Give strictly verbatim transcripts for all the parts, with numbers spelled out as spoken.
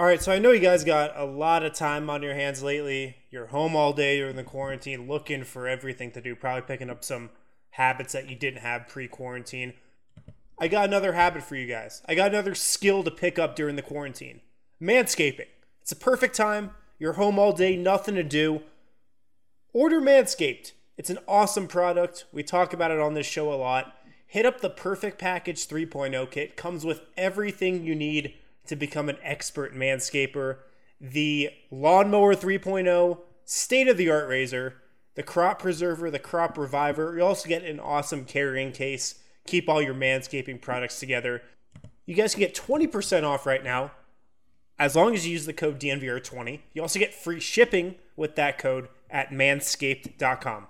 All right, so I know you guys got a lot of time on your hands lately. You're home all day during the quarantine, looking for everything to do, probably picking up some habits that you didn't have pre-quarantine. I got another habit for you guys. I got another skill to pick up during the quarantine. Manscaping. It's a perfect time. You're home all day, nothing to do. Order Manscaped. It's an awesome product. We talk about it on this show a lot. Hit up the Perfect Package three point oh kit. Comes with everything you need to become an expert manscaper. The Lawnmower three point oh, state-of-the-art razor, the Crop Preserver, the Crop Reviver. You also get an awesome carrying case. Keep all your manscaping products together. You guys can get twenty percent off right now as long as you use the code D N V R twenty. You also get free shipping with that code at manscaped dot com.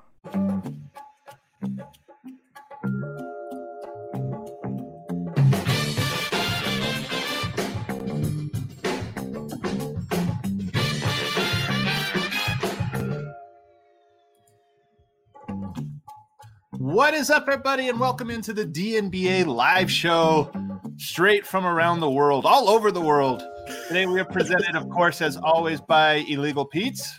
What is up, everybody, and welcome into the D N B A live show straight from around the world, all over the world. Today we are presented, of course, as always, by Illegal Pete's.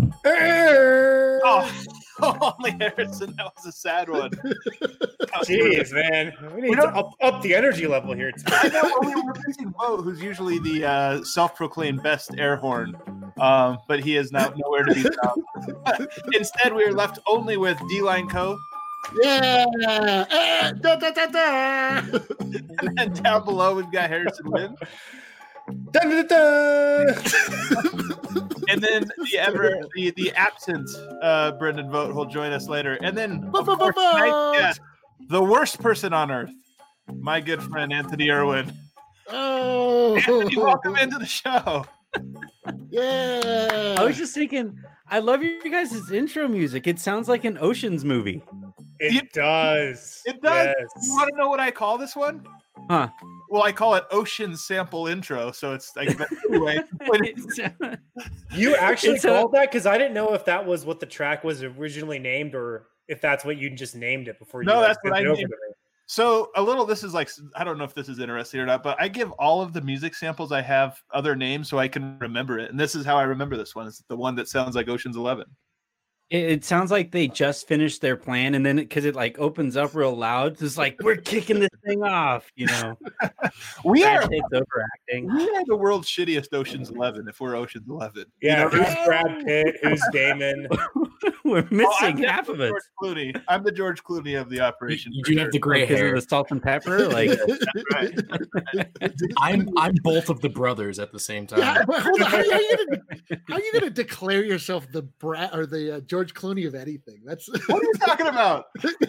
Oh, only Harrison. That was a sad one. Jeez, man. We need we to up, up the energy level here. I know. We were missing Bo, who's usually the uh, self-proclaimed best air horn, um, but he is now nowhere to be found. Instead, we are left only with D-Line Co. Yeah. Uh, da, da, da, da. And then down below, we've got Harrison Wynn. Da, da, da. And then the ever the, the absent uh, Brendan Vogt will join us later. And then of course, tonight, yeah, the worst person on earth, my good friend Anthony Irwin. Oh, Anthony, welcome into the show. Yeah. I was just thinking, I love you guys' intro music. It sounds like an Ocean's movie. It it, does. It does. Yes. You want to know what I call this one? Huh. Well, I call it Ocean Sample Intro, so it's like anyway. You actually It's called a- that? Because I didn't know if that was what the track was originally named or if that's what you just named it before you No, like, that's what sent I it over named to me. So a little, this is like, I don't know if this is interesting or not, but I give all of the music samples I have other names so I can remember it. And this is how I remember this one. It's the one that sounds like Ocean's Eleven. It, it sounds like they just finished their plan, and then because it, it like opens up real loud, it's like we're kicking this thing off, you know. we Brad are Pitt's overacting. we are the world's shittiest Ocean's Eleven if we're Ocean's Eleven. Yeah, You know? who's Brad Pitt? Who's Damon? We're Oh, I'm missing half of it George Clooney. I'm the George Clooney of the operation. You for do sure. have the gray Because hair. of the salt and pepper, like Right. I'm I'm both of the brothers at the same time. Yeah, but hold on. How are you gonna, how are you gonna declare yourself the Brad or the uh, George Clooney of anything? That's What are you talking about?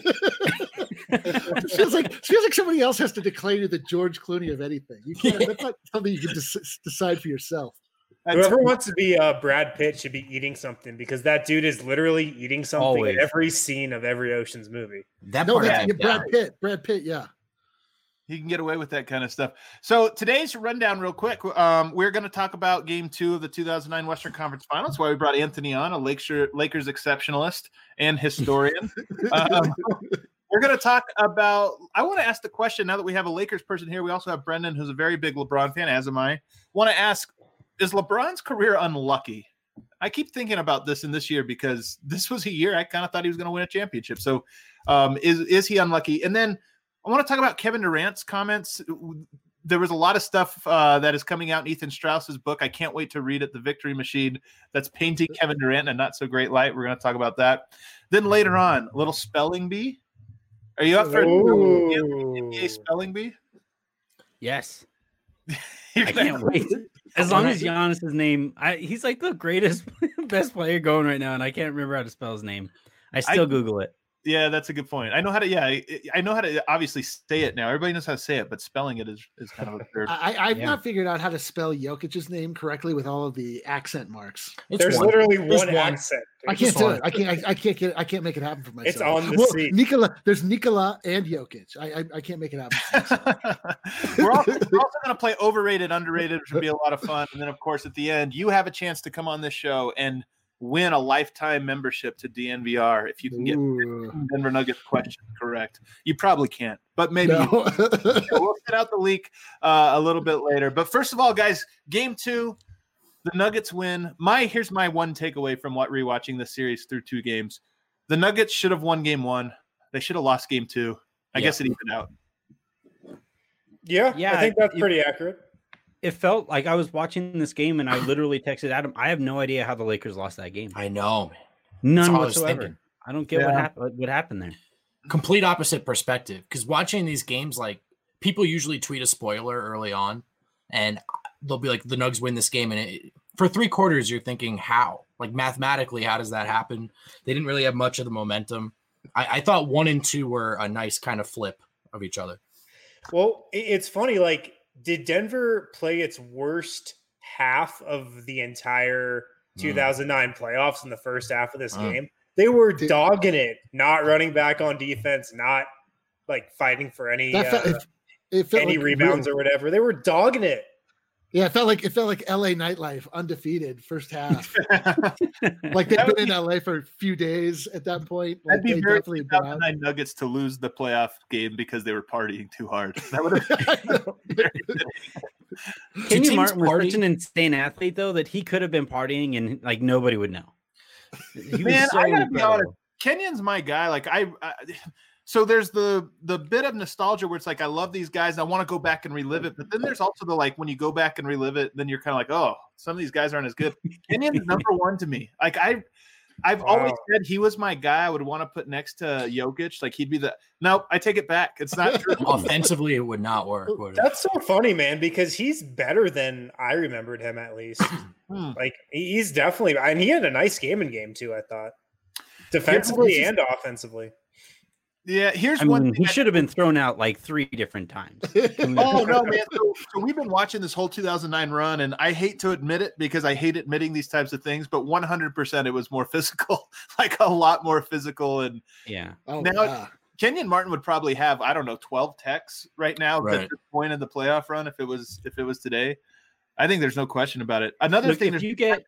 it feels like it feels like somebody else has to declare you the George Clooney of anything. You can't. That's not something you can des- decide for yourself. Whoever wants to be uh, Brad Pitt should be eating something because that dude is literally eating something Always. in every scene of every Ocean's movie. That No, part I that's have yeah, Brad down. Pitt. Brad Pitt. Yeah. He can get away with that kind of stuff. So today's rundown real quick. Um, we're going to talk about game two of the two thousand nine Western Conference Finals. That's why we brought Anthony on, a Lakers, Lakers exceptionalist and historian. um, we're going to talk about, I want to ask the question now that we have a Lakers person here. We also have Brendan, who's a very big LeBron fan, as am I. Want to ask, is LeBron's career unlucky? I keep thinking about this in this year because this was a year I kind of thought he was going to win a championship. So um, is, is he unlucky? And then I want to talk about Kevin Durant's comments. There was a lot of stuff uh, that is coming out in Ethan Strauss's book. I can't wait to read it, The Victory Machine, that's painting Kevin Durant in a not so great light. We're going to talk about that. Then later on, a little spelling bee. Are you up for Ooh. N B A spelling bee? yes. You're I gonna- can't wait. As long as Giannis's name, I, he's like the greatest, best player going right now, and I can't remember how to spell his name. I still I- Google it. Yeah, that's a good point. I know how to. Yeah, I, I know how to obviously say it now. Everybody knows how to say it, but spelling it is, is kind of absurd. I, I've Yeah. not figured out how to spell Jokic's name correctly with all of the accent marks. It's There's one. literally There's one, one. accent. I dude. can't do one. it. I can't. I, I can't get. I can't make it happen for myself. It's on the well, seat. Nikola. There's Nikola and Jokic. I, I I can't make it happen. For myself. we're also, we're also going to play overrated, underrated, which would be a lot of fun. And then, of course, at the end, you have a chance to come on this show and win a lifetime membership to D N V R if you can get Ooh. Denver Nuggets question correct. You probably can't, but maybe No. you can. We'll set out the leak uh, a little bit later. But first of all, guys, game two, the Nuggets win. My here's my one takeaway from what rewatching this series through two games. The Nuggets should have won game one. They should have lost game two. I Yeah. guess it evened out. Yeah, Yeah, I think that's it- pretty accurate. It felt like I was watching this game and I literally texted Adam, I have no idea how the Lakers lost that game. I know, man. None all I was whatsoever. thinking. I don't get what Yeah. happened what happened there. Complete opposite perspective. Because watching these games, like people usually tweet a spoiler early on, and they'll be like, "The Nugs win this game," and it, for three quarters, you're thinking, "How? Like mathematically, how does that happen?" They didn't really have much of the momentum. I, I thought one and two were a nice kind of flip of each other. Well, it- it's funny. Like, did Denver play its worst half of the entire two thousand nine playoffs in the first half of this Mm. game? They were Did- dogging it, not running back on defense, not like fighting for any That felt, uh, it, it felt any like rebounds real- or whatever. They were dogging it. Yeah, it felt like it felt like L A nightlife, undefeated first half. Like they've That would been in be- L A for a few days at that point. Like I'd be they very definitely been out. two thousand nine Nuggets to lose the playoff game because they were partying too hard. That would have I know. Kenyon teams Martin was party? such an insane athlete, though, that he could have been partying and like nobody would know. He was Man, so I gotta be incredible. honest. Kenyon's my guy. Like I, I, so there's the the bit of nostalgia where it's like I love these guys. And I want to go back and relive it. But then there's also the like when you go back and relive it, then you're kind of like, oh, some of these guys aren't as good. Kenyon's number one to me. Like I, I've always Wow. said he was my guy. I would want to put next to Jokic. Like he'd be the. No, I take it back. It's not true. Offensively, it would not work. Would it? That's so funny, man, because he's better than I remembered him at least. Hmm. Like he- he's definitely, and he had a nice game in game two, I thought, defensively this is- and offensively. Yeah, here's I one mean, thing. he I- should have been thrown out like three different times. Oh no, man! So, so we've been watching this whole two thousand nine run, and I hate to admit it because I hate admitting these types of things, but one hundred percent it was more physical, like a lot more physical. And Yeah. Oh, Now- yeah. Kenyon Martin would probably have I don't know twelve techs right now Right. at this point in the playoff run if it was if it was today. I think there's no question about it. Another Look, thing, if there's- you get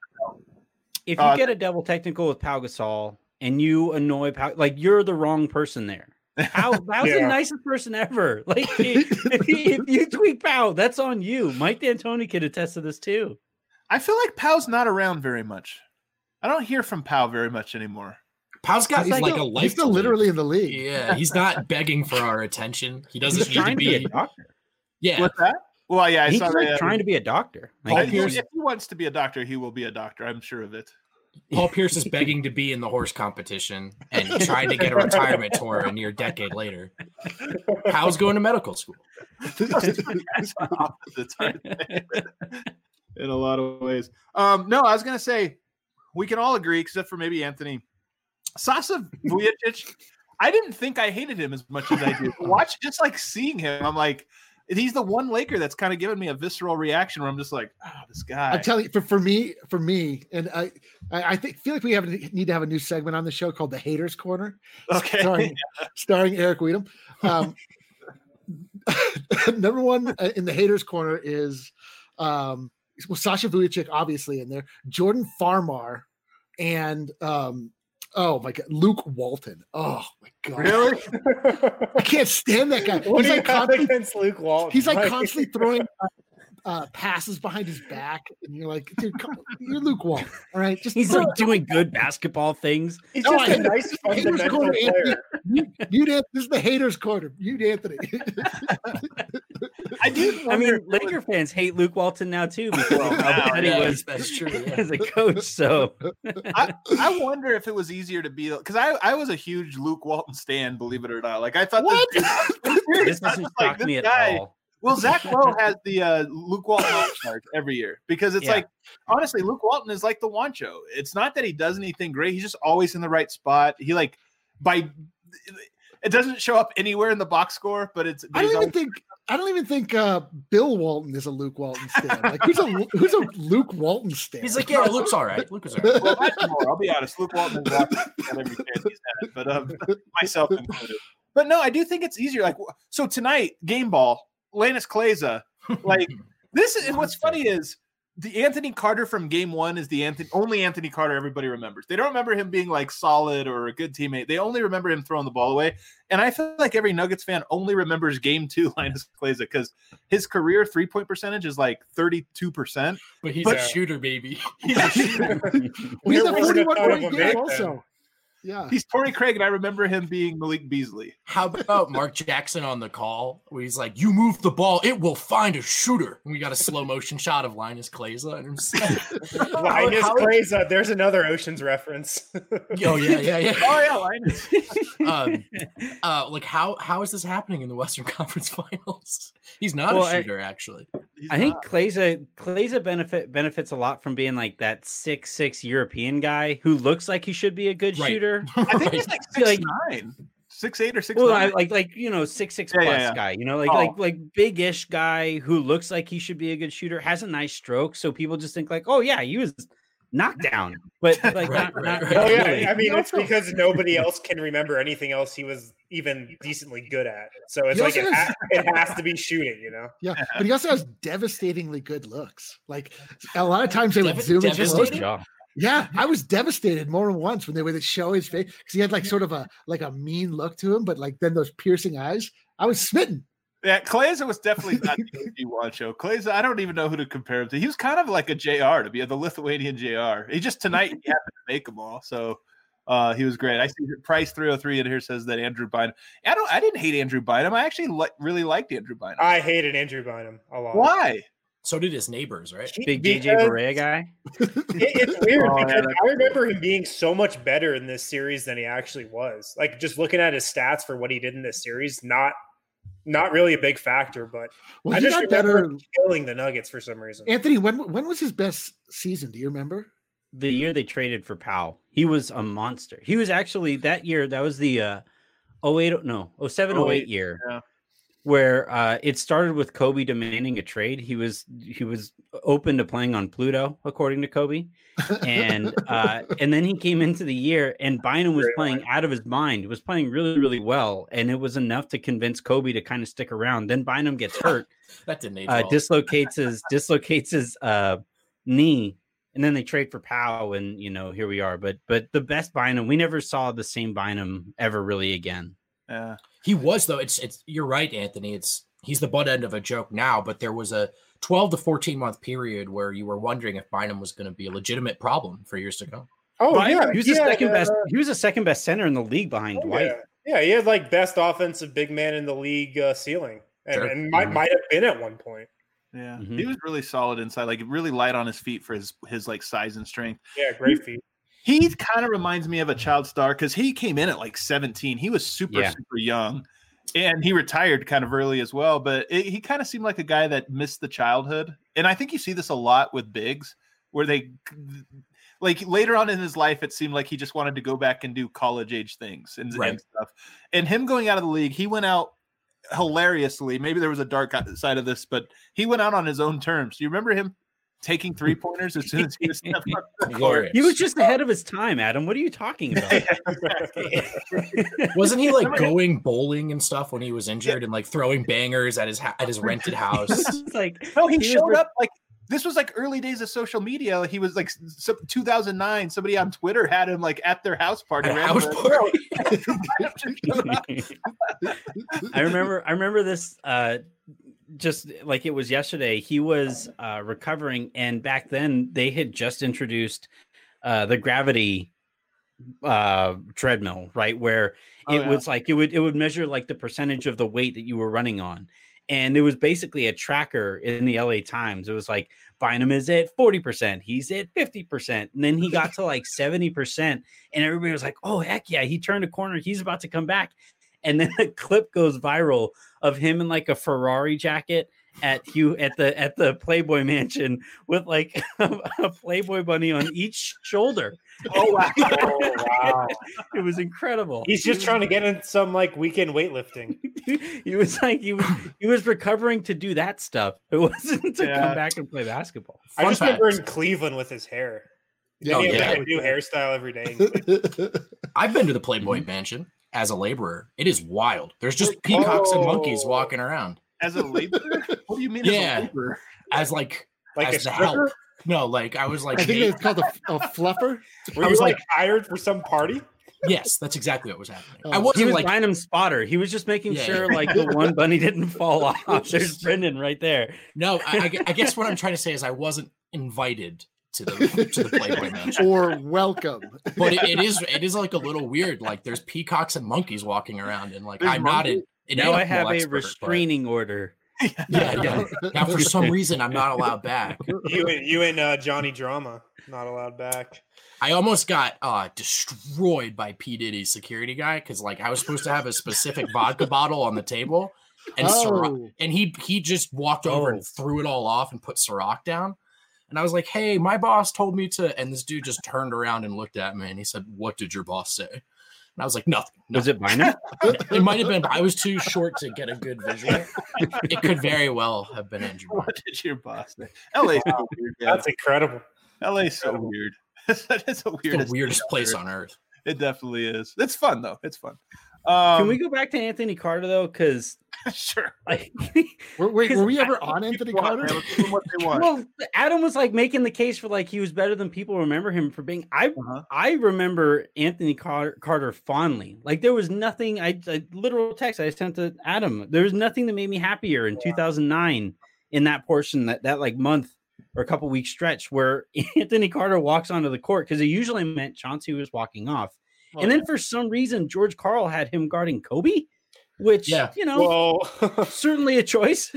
if you Uh, get a double technical with Pau Gasol and you annoy Pau, like you're the wrong person there. Pau, Pau's the Yeah. nicest person ever. Like if, if you- if you tweak Pau, that's on you. Mike D'Antoni could attest to this too. I feel like Pau's not around very much. I don't hear from Pau very much anymore. Pau's got He's like, like- a life. He's still to live. literally in the league. Yeah, he's not begging for our attention. He doesn't He's need to trying to be. be a doctor. Yeah, What's that? Well, yeah, I He's saw like that. trying to be a doctor. Paul Like, Pierce, he's- if he wants to be a doctor, he will be a doctor. I'm sure of it. Paul Pierce is begging to be in the horse competition and trying to get a retirement tour a near decade later. Pau's going to medical school. Guys are opposites, aren't they? In a lot of ways. Um, no, I was gonna say we can all agree, except for maybe Anthony. Sasa Vujacic, I didn't think I hated him as much as I do. Watch, just like seeing him, I'm like, he's the one Laker that's kind of given me a visceral reaction where I'm just like, oh, this guy. I'm telling you, for, for me, for me, and I, I, I think feel like we have need to have a new segment on the show called the Haters Corner, Okay. starring, starring Eric Weedham. Um, number one uh, in the Haters Corner is um, well, Sasha Vujacic, obviously in there, Jordan Farmar, and um, oh my god, Luke Walton. Oh my god, Really? I can't stand that guy. What He's do you like have constantly against Luke Walton? He's like constantly throwing uh, uh, passes behind his back, and you're like, dude, come on, you're Luke Walton, all right? Just he's throw like doing good basketball things. He's No, just I- a nice, Haters fundamental Corner, Anthony. player. You, you did. This is the haters' corner. You, Anthony. I do. I wonder mean, if it was- Laker fans hate Luke Walton now too because of how now, bad yeah, he was that's true. Yeah. as a coach. So I, I wonder if it was easier to be because I, I was a huge Luke Walton stan, believe it or not. Like I thought What? this, this doesn't like, shock this me at guy- all. Well, Zach Lowe has the uh, Luke Walton All-Stars every year because it's Yeah. like, honestly, Luke Walton is like the Wancho. It's not that he does anything great. He's just always in the right spot. He like, by, it doesn't show up anywhere in the box score, but it's, I but don't he's even always- think. I don't even think uh, Bill Walton is a Luke Walton stan. Like who's a who's a Luke Walton stan? He's like, yeah, Luke's all right. Luke was all right. well, that's more. I'll be honest. Luke Walton has watched every chance he's had, but um, myself included. But no, I do think it's easier. Like, so tonight, game ball, Lannis Kleza, like this is what's funny is the Anthony Carter from game one is the Anthony only Anthony Carter everybody remembers. They don't remember him being like solid or a good teammate. They only remember him throwing the ball away. And I feel like every Nuggets fan only remembers game two Linus Kleza because his career three point percentage is like thirty-two percent. But he's But- a shooter, baby. He's a shooter. He's There a wasn't a forty-one ton of point them game back also. Yeah. He's Torrey Craig, and I remember him being Malik Beasley. How about Mark Jackson on the call where he's like, you move the ball, it will find a shooter. And we got a slow motion shot of Linus Kleza. And I'm just like, Linus how- Kleza. There's another Ocean's reference. oh, yeah, yeah, yeah. Oh yeah, Linus. um, uh, like how how is this happening in the Western Conference Finals? He's not Well, a I- shooter, actually. He's I think not. Kleza Kleza benefit benefits a lot from being like that six six European guy who looks like he should be a good Right. shooter. I think he's like six Like- nine, six eight or six Well, I, nine. like like you know six six Yeah, plus yeah, yeah. guy, you know, like Oh. like like big-ish guy who looks like he should be a good shooter, has a nice stroke, so people just think like, oh yeah, he was knocked down, but like Right, not, right, not right. Oh yeah, really. I mean He it's also- because nobody else can remember anything else he was even decently good at. So it's He like also it, has- ha- it has to be shooting, you know. Yeah, but he also has devastatingly good looks. Like a lot of times they would Dev- zoom into his devastating? looks. Yeah, I was devastated more than once when they would show his face because he had like sort of a like a mean look to him, but like then those piercing eyes. I was smitten. Yeah, Kleza was definitely not the O G Wancho. Kleza, I don't even know who to compare him to. He was kind of like a J R to be the Lithuanian J R. He just tonight he happened to make them all, so uh, he was great. I see Price three oh three in here says that Andrew Bynum. I don't. I didn't hate Andrew Bynum. I actually li- really liked Andrew Bynum. I hated Andrew Bynum a lot. Why? So did his neighbors, right? Big J J Because Barea guy. it- it's weird Oh, yeah, because that's I remember him being so much better in this series than he actually was. Like just looking at his stats for what he did in this series, not not really a big factor, but Well, I he just got remember better. killing the Nuggets for some reason. Anthony, when when was his best season? Do you remember? The year they traded for Powell, he was a monster. He was actually that year. That was the uh, oh eight no oh seven oh eight year, yeah. where uh, it started with Kobe demanding a trade. He was he was open to playing on Pluto, according to Kobe, and uh, and then he came into the year, and Bynum was Great playing line. out of his mind. Was playing really really well, and it was enough to convince Kobe to kind of stick around. Then Bynum gets hurt, That didn't age uh, well. dislocates his dislocates his uh, knee, and then they trade for Powell, and you know here we are. But but the best Bynum, we never saw the same Bynum ever really again. Yeah. He was though. It's it's you're right, Anthony. It's he's the butt end of a joke now, but there was a twelve to fourteen month period where you were wondering if Bynum was going to be a legitimate problem for years to come. Oh Bynum, he was the yeah, second uh, best. He was the second best center in the league behind oh, Dwight. yeah. yeah, he had like best offensive big man in the league uh, ceiling, and, Sure. and might Mhm. might have been at one point. Yeah. Mhm. He was really solid inside, like really light on his feet for his his like size and strength. Yeah, great feat. He kind of reminds me of a child star because he came in at like seventeen. He was super, Yeah. super young. And he retired kind of early as well. But it, he kind of seemed like a guy that missed the childhood. And I think you see this a lot with bigs where they, like later on in his life, it seemed like he just wanted to go back and do college age things and, Right. and stuff. And him going out of the league, he went out hilariously. Maybe there was a dark side of this, but he went out on his own terms. Do you remember him taking three pointers as soon as he was stepped on the court? Glorious. He was just ahead of his time, Adam. What are you talking about? Wasn't he like going bowling and stuff when he was injured and like throwing bangers at his ha- at his rented house? It's like No, he, He was showed re- up like this was like early days of social media. He was like s- two thousand nine. Somebody on Twitter had him like at their house party. At a randomly. house party. I remember I remember this uh just like it was yesterday. He was uh recovering, and back then they had just introduced uh the gravity uh treadmill, right? Where Oh, it yeah. was like it would it would measure like the percentage of the weight that you were running on. And it was basically a tracker in the L A Times. It was like Bynum is at forty percent, he's at fifty percent. And then he got to like seventy percent. And everybody was like, oh, heck yeah, he turned a corner. He's about to come back. And then a clip goes viral of him in like a Ferrari jacket at Hugh at the at the Playboy Mansion with like a, a Playboy bunny on each shoulder. Oh wow! Oh, wow. It was incredible. He's just trying to get in some like weekend weightlifting. He was like he was he was recovering to do that stuff. It wasn't to Yeah. come back and play basketball. I Fun just fact. remember in Cleveland with his hair. Yeah, he had yeah. like a new hairstyle every day. I've been to the Playboy Mansion as a laborer. It is wild. There's just peacocks and monkeys Oh. walking around. As a laborer? What do you mean? Yeah. As a laborer? As like Like as a the stripper? help. No, like I was like, I think hey- it's called a, a fluffer. Were I you was like like- hired for some party? yes, that's exactly what was happening. Oh. I He wasn't was like, buying him spotter. He was just making Yeah, sure yeah. like the one bunny didn't fall off. There's Brendan right there. no, I, I gu- I guess what I'm trying to say is I wasn't invited to the to the Playboy Mansion. Or welcome. But it, it is it is like a little weird. Like there's peacocks and monkeys walking around, and like There's I'm not an, an Now I animal have a expert, but- restraining order. Yeah, yeah. Now for some reason I'm not allowed back. You and you and uh, Johnny Drama not allowed back. I almost got uh destroyed by P. Diddy's security guy because like I was supposed to have a specific vodka bottle on the table, and Ciroc, Oh, and he he just walked over Oh. and threw it all off and put Ciroc down. And I was like, "Hey, my boss told me to," and this dude just turned around and looked at me and he said, "What did your boss say?" And I was like, "Nothing." Was nothing. it Bynum? It might have been, but I was too short to get a good visual. It could very well have been Andrew. Bynum. What did your boss say? L A's so weird. Yeah. That's incredible. L A's so weird. that is the It's weirdest. the weirdest place on earth. It definitely is. It's fun though. It's fun. Um, Can we go back to Anthony Carter though? Because sure. like, were, wait, Because were we ever on Anthony People want- Carter? let's give them what they want. well, Adam was like making the case for like he was better than people remember him for being. I Uh-huh. I remember Anthony Car- Carter fondly. Like there was nothing. I, I literal text I sent to Adam. There was nothing that made me happier in two thousand nine in that portion that that like month or a couple week stretch where Anthony Carter walks onto the court because it usually meant Chauncey was walking off. Well, And then for some reason, George Karl had him guarding Kobe, which, Yeah. you know, Well, certainly a choice.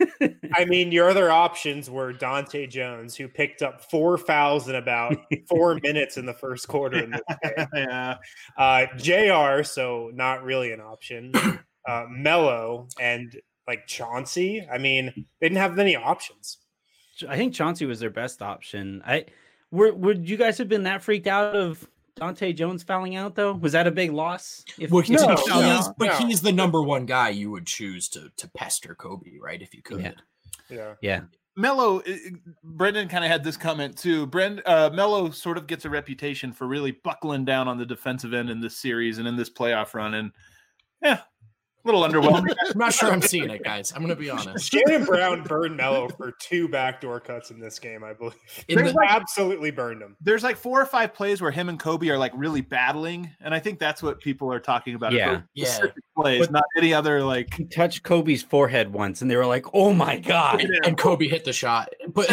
I mean, your other options were Dante Jones, who picked up four fouls in about four minutes in the first quarter. In this game. yeah. Uh, J R, so not really an option. Uh, Mello and like Chauncey. I mean, they didn't have many options. I think Chauncey was their best option. I were would you guys have been that freaked out of Dante Jones fouling out though? Was that a big loss? If, Well, if he's, he No, fouled he's- out? but no. he's the number one guy you would choose to to pester Kobe, right? If you could. Yeah. Yeah. Yeah. Mello, uh, Brendan kind of had this comment too. Brend, uh, Mello sort of gets a reputation for really buckling down on the defensive end in this series and in this playoff run, and yeah, a little underwhelming. I'm not sure I'm seeing it, guys. I'm gonna be honest. Shannon Brown burned Mello for two backdoor cuts in this game, I believe. In They the- absolutely burned him. There's like four or five plays where him and Kobe are like really battling, and I think that's what people are talking about. Yeah. Those Yeah. specific plays, But- not any other like. He touched Kobe's forehead once and they were like, oh my God. and, and Kobe hit the shot, but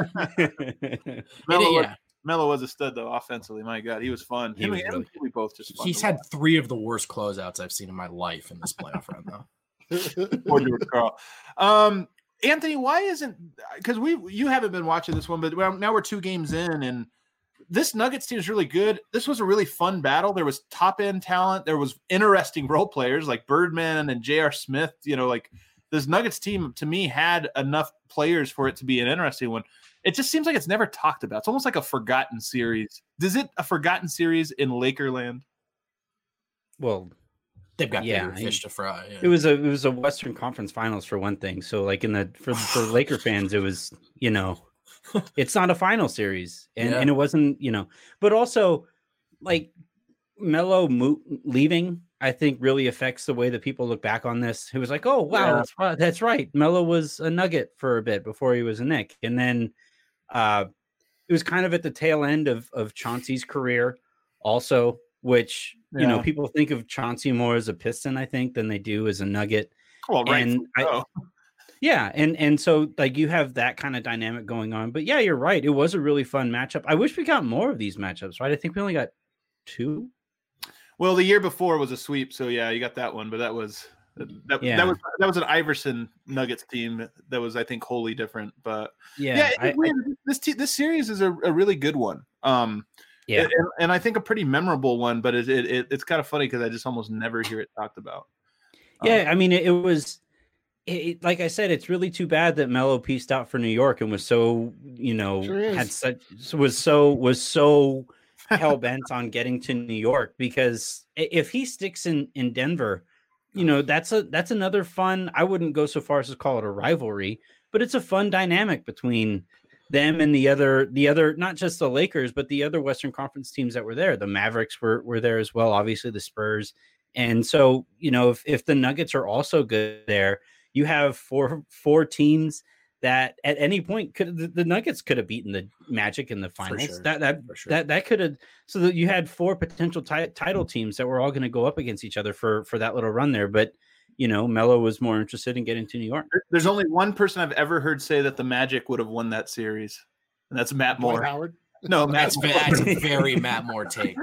it- Mello, was, yeah, Mello was a stud though offensively. My God, he was fun. He Him was and really Kobe both just fun he's to had three of the worst closeouts I've seen in my life in this playoff run, though. Poor George Karl. Um, Anthony, why isn't because we you haven't been watching this one, but well, now we're two games in, and this Nuggets team is really good. This was a really fun battle. There was top end talent. There was interesting role players like Birdman and J R. Smith. You know, like this Nuggets team to me had enough players for it to be an interesting one. It just seems like it's never talked about. It's almost like a forgotten series. Is it a forgotten series in Lakerland? Well, They've got Yeah, bigger fish to fry. Yeah. it was a it was a Western Conference Finals for one thing. So like in the for for Laker fans, it was, you know, it's not a final series, and Yeah. and it wasn't, you know, but also like Melo mo- leaving, I think really affects the way that people look back on this. It was like, oh wow, Yeah. that's right, that's right. Melo was a Nugget for a bit before he was a Knick, and then uh, it was kind of at the tail end of of Chauncey's career, also, which you know Yeah. people think of Chauncey more as a Piston, I think, than they do as a Nugget. Well, right. And I- so. Yeah, and and so like you have that kind of dynamic going on. But yeah, you're right. It was a really fun matchup. I wish we got more of these matchups, right? I think we only got two. Well, the year before was a sweep, so yeah, you got that one. But that was that, Yeah. that was that was an Iverson Nuggets team that was, I think, wholly different. But Yeah, yeah, I- it's weird. this te- this series is a, a really good one. Um, yeah. and, and I think a pretty memorable one. But it, it, it it's kind of funny because I just almost never hear it talked about. Um, Yeah, I mean, it, it was, it, it- like I said, it's really too bad that Melo pieced out for New York and was so, you know, Sure is. had such was so was so hell bent on getting to New York, because i- if he sticks in in Denver, you know, that's a that's another fun. I wouldn't go so far as to call it a rivalry, but it's a fun dynamic between them and the other the other not just the Lakers, but the other Western Conference teams that were there. The Mavericks were were there as well, obviously the Spurs. And so, you know, if if the Nuggets are also good there, you have four four teams that at any point could the, the Nuggets could have beaten the Magic in the finals. sure. That that For sure. that that could have, so that you had four potential ti- title teams that were all going to go up against each other for for that little run there. But you know, Melo was more interested in getting to New York. There- There's only one person I've ever heard say that the Magic would have won that series, and that's Matt Dwight Moore. Howard. No, Matt That's, Moore. that's a very Matt Moore take.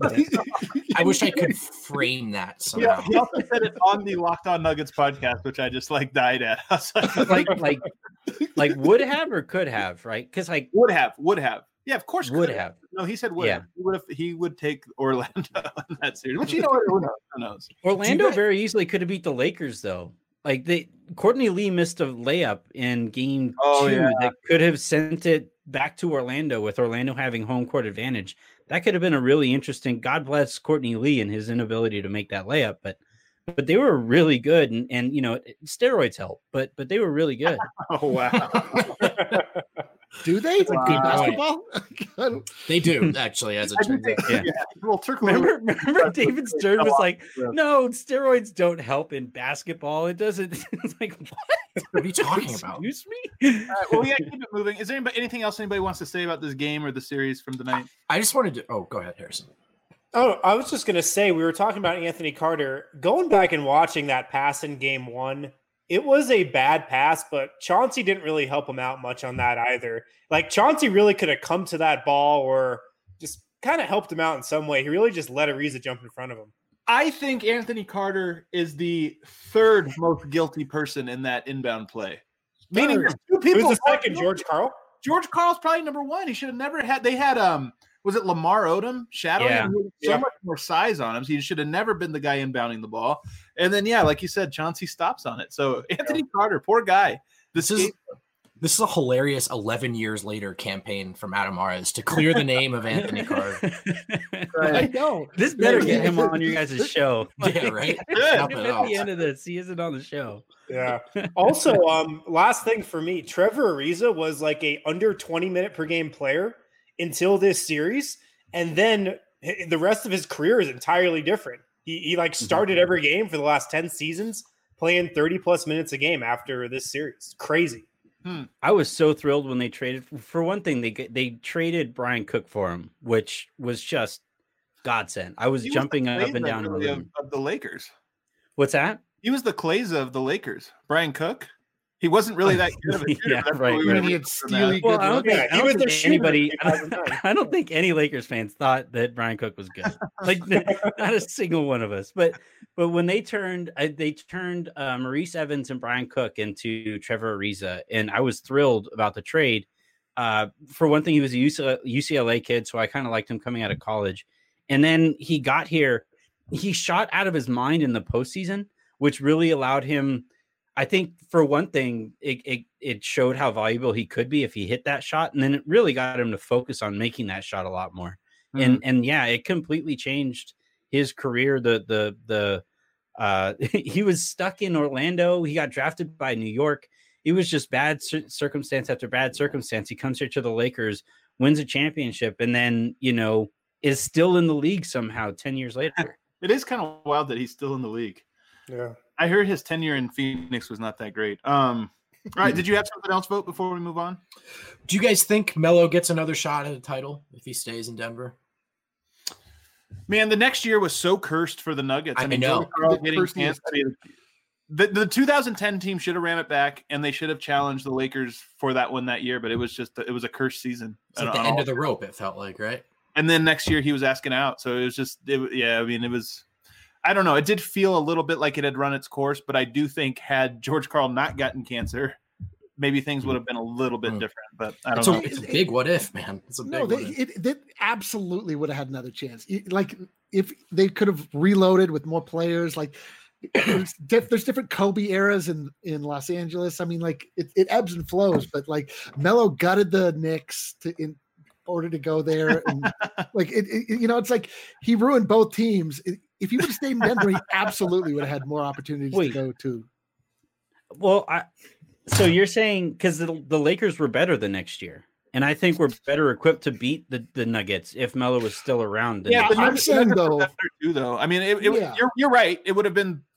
I wish I could frame that Yeah, somehow. he also said it on the Locked On Nuggets podcast, which I just like died at. I was like, Like like like would have or could have, right? Because like would have, would have. Yeah, of course. would could have. No, he said would Yeah. have. He would have. He would take Orlando in that series. Which you know what? Who knows? Who knows? Orlando guys- very easily could have beat the Lakers though. Like they Courtney Lee missed a layup in game Oh, two yeah. that could have sent it back to Orlando with Orlando having home court advantage. That could have been a really interesting. God bless Courtney Lee and his inability to make that layup, but but they were really good, and and you know steroids help, but but they were really good. Oh wow. Do they? That's a good Good point. basketball? They do, actually, as it I do turns think, out. yeah. Yeah. Well, Turkle. Remember, remember David Stern was like, Yeah. "No, steroids don't help in basketball. It doesn't." It's like, what? What are you talking about? Excuse me. All right, well, we got to keep it moving. Is there anybody, anything else anybody wants to say about this game or the series from tonight? I just wanted to. Oh, go ahead, Harrison. Oh, I was just going to say, we were talking about Anthony Carter. Going back and watching that pass in game one, it was a bad pass, but Chauncey didn't really help him out much on that either. Like, Chauncey really could have come to that ball or just kind of helped him out in some way. He really just let Ariza jump in front of him. I think Anthony Carter is the third most guilty person in that inbound play. Meaning, Third. there's two Who's people. the second, George Karl? George Karl's probably number one. He should have never had. They had um, was it Lamar Odom shadowing Yeah. him? He had so Yeah. much more size on him. So he should have never been the guy inbounding the ball. And then yeah, like you said, Chauncey stops on it. So Anthony Carter, poor guy. This is this is a hilarious eleven years later campaign from Adam Mares to clear the name of Anthony Carter. I know. This better get him on your guys' show. Yeah, right. Good. Help If it at out. the end of this, he isn't on the show. Yeah. Also, um, last thing for me, Trevor Ariza was like a under twenty minute per game player until this series, and then h- the rest of his career is entirely different. He, he like started every game for the last ten seasons, playing thirty plus minutes a game after this series. Crazy. I was so thrilled when they traded. For one thing, they get- they traded Brian Cook for him, which was just godsend. I was He was jumping the up and Clay down in the really of, room. of the Lakers. What's that? He was the Clays of the Lakers. Brian Cook. He wasn't really that good of a shooter. Yeah, but that's right, what we I were mean, he had looking for, steely man. Well, good I don't look. think, Yeah, I he don't was the think shooter anybody. in two thousand nine. I don't think any Lakers fans thought that Brian Cook was good. Like not a single one of us. But but when they turned, uh, they turned uh, Maurice Evans and Brian Cook into Trevor Ariza, and I was thrilled about the trade. Uh, for one thing, he was a U C L A kid, so I kind of liked him coming out of college. And then he got here. He shot out of his mind in the postseason, which really allowed him. I think for one thing, it, it it showed how valuable he could be if he hit that shot, and then it really got him to focus on making that shot a lot more. And and yeah, it completely changed his career. The the the uh, he was stuck in Orlando. He got drafted by New York. It was just bad cir- circumstance after bad circumstance. He comes here to the Lakers, wins a championship, and then you know is still in the league somehow ten years later. It is kind of wild that he's still in the league. Yeah. I heard his tenure in Phoenix was not that great. Um, all right, did you have something else, Vote, before we move on? Do you guys think Melo gets another shot at a title if he stays in Denver? Man, the next year was so cursed for the Nuggets. I know. George Karl The getting cursed cancer- I mean, The, the two thousand ten team should have ran it back, and they should have challenged the Lakers for that one that year. But it was just it was a cursed season. It's like on- the on end all- of the rope, it felt like, right? And then next year he was asking out, so it was just it, yeah. I mean, it was. I don't know. It did feel a little bit like it had run its course, but I do think had George Karl not gotten cancer, maybe things would have been a little bit Mm. different. But I don't It's know. a, it's a big what if, man. It's a big No, what they, if. it, they absolutely would have had another chance. It- Like if they could have reloaded with more players, like there's, diff, there's different Kobe eras in, in Los Angeles. I mean, like it, it ebbs and flows, but like Melo gutted the Knicks to in order to go there, and like it, it, you know, it's like he ruined both teams. It, if he would have stayed in Denver, he absolutely would have had more opportunities Wait. to go to. Well, I, so you're saying because the, the Lakers were better the next year, and I think we're better equipped to beat the, the Nuggets if Melo was still around. the Yeah, next but I'm Nuggets- saying, Nuggets were though- better too, though. I mean, it, it, Yeah. you're you're right. It would have been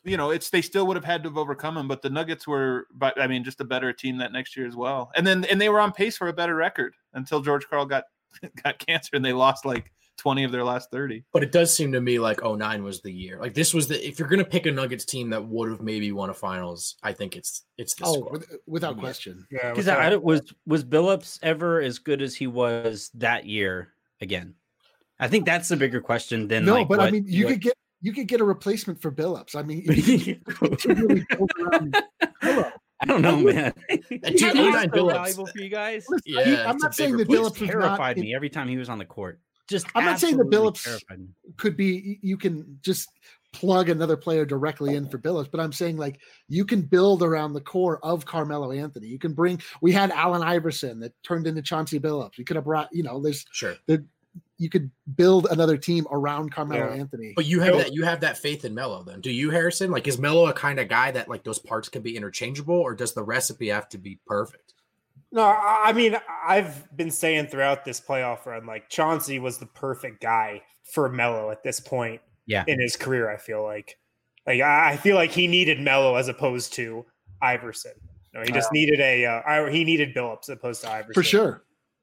you know, it's they still would have had to have overcome them, but the Nuggets were, but I mean, just a better team that next year as well. And then and they were on pace for a better record until George Karl got got cancer and they lost like twenty of their last thirty. But it does seem to me like oh nine was the year. Like this was the if you're gonna pick a Nuggets team that would have maybe won a finals, I think it's it's this Oh, squad. with, without Yeah. question. Yeah, Because without- I don't- was was Billups ever as good as he was that year again? I think that's the bigger question than No, like, but I what- mean, you what- could get you could get a replacement for Billups. I mean, you could really build around Melo. I don't know, man. And He two- was oh nine so Billups. valuable for you guys. Listen, Yeah, he- I'm it's a not saying big that He Billups was not. terrified in- me every time he was on the court. Just I'm not saying that absolutely Billups- terrified me. could be you can just plug another player directly in for Billups, but I'm saying like you can build around the core of Carmelo Anthony. You can bring we had Allen Iverson that turned into Chauncey Billups. We could have brought, you know, there's Sure. you could build another team around Carmelo Yeah. Anthony. But you have No. that you have that faith in Melo then. Do you, Harrison? Like is Melo a kind of guy that like those parts can be interchangeable, or does the recipe have to be perfect? No, I I mean, I've been saying throughout this playoff run, like Chauncey was the perfect guy for Melo at this point Yeah. in his career. I feel like, like I I feel like he needed Melo as opposed to Iverson. No, he just needed a uh, I- he needed Billups as opposed to Iverson For sure.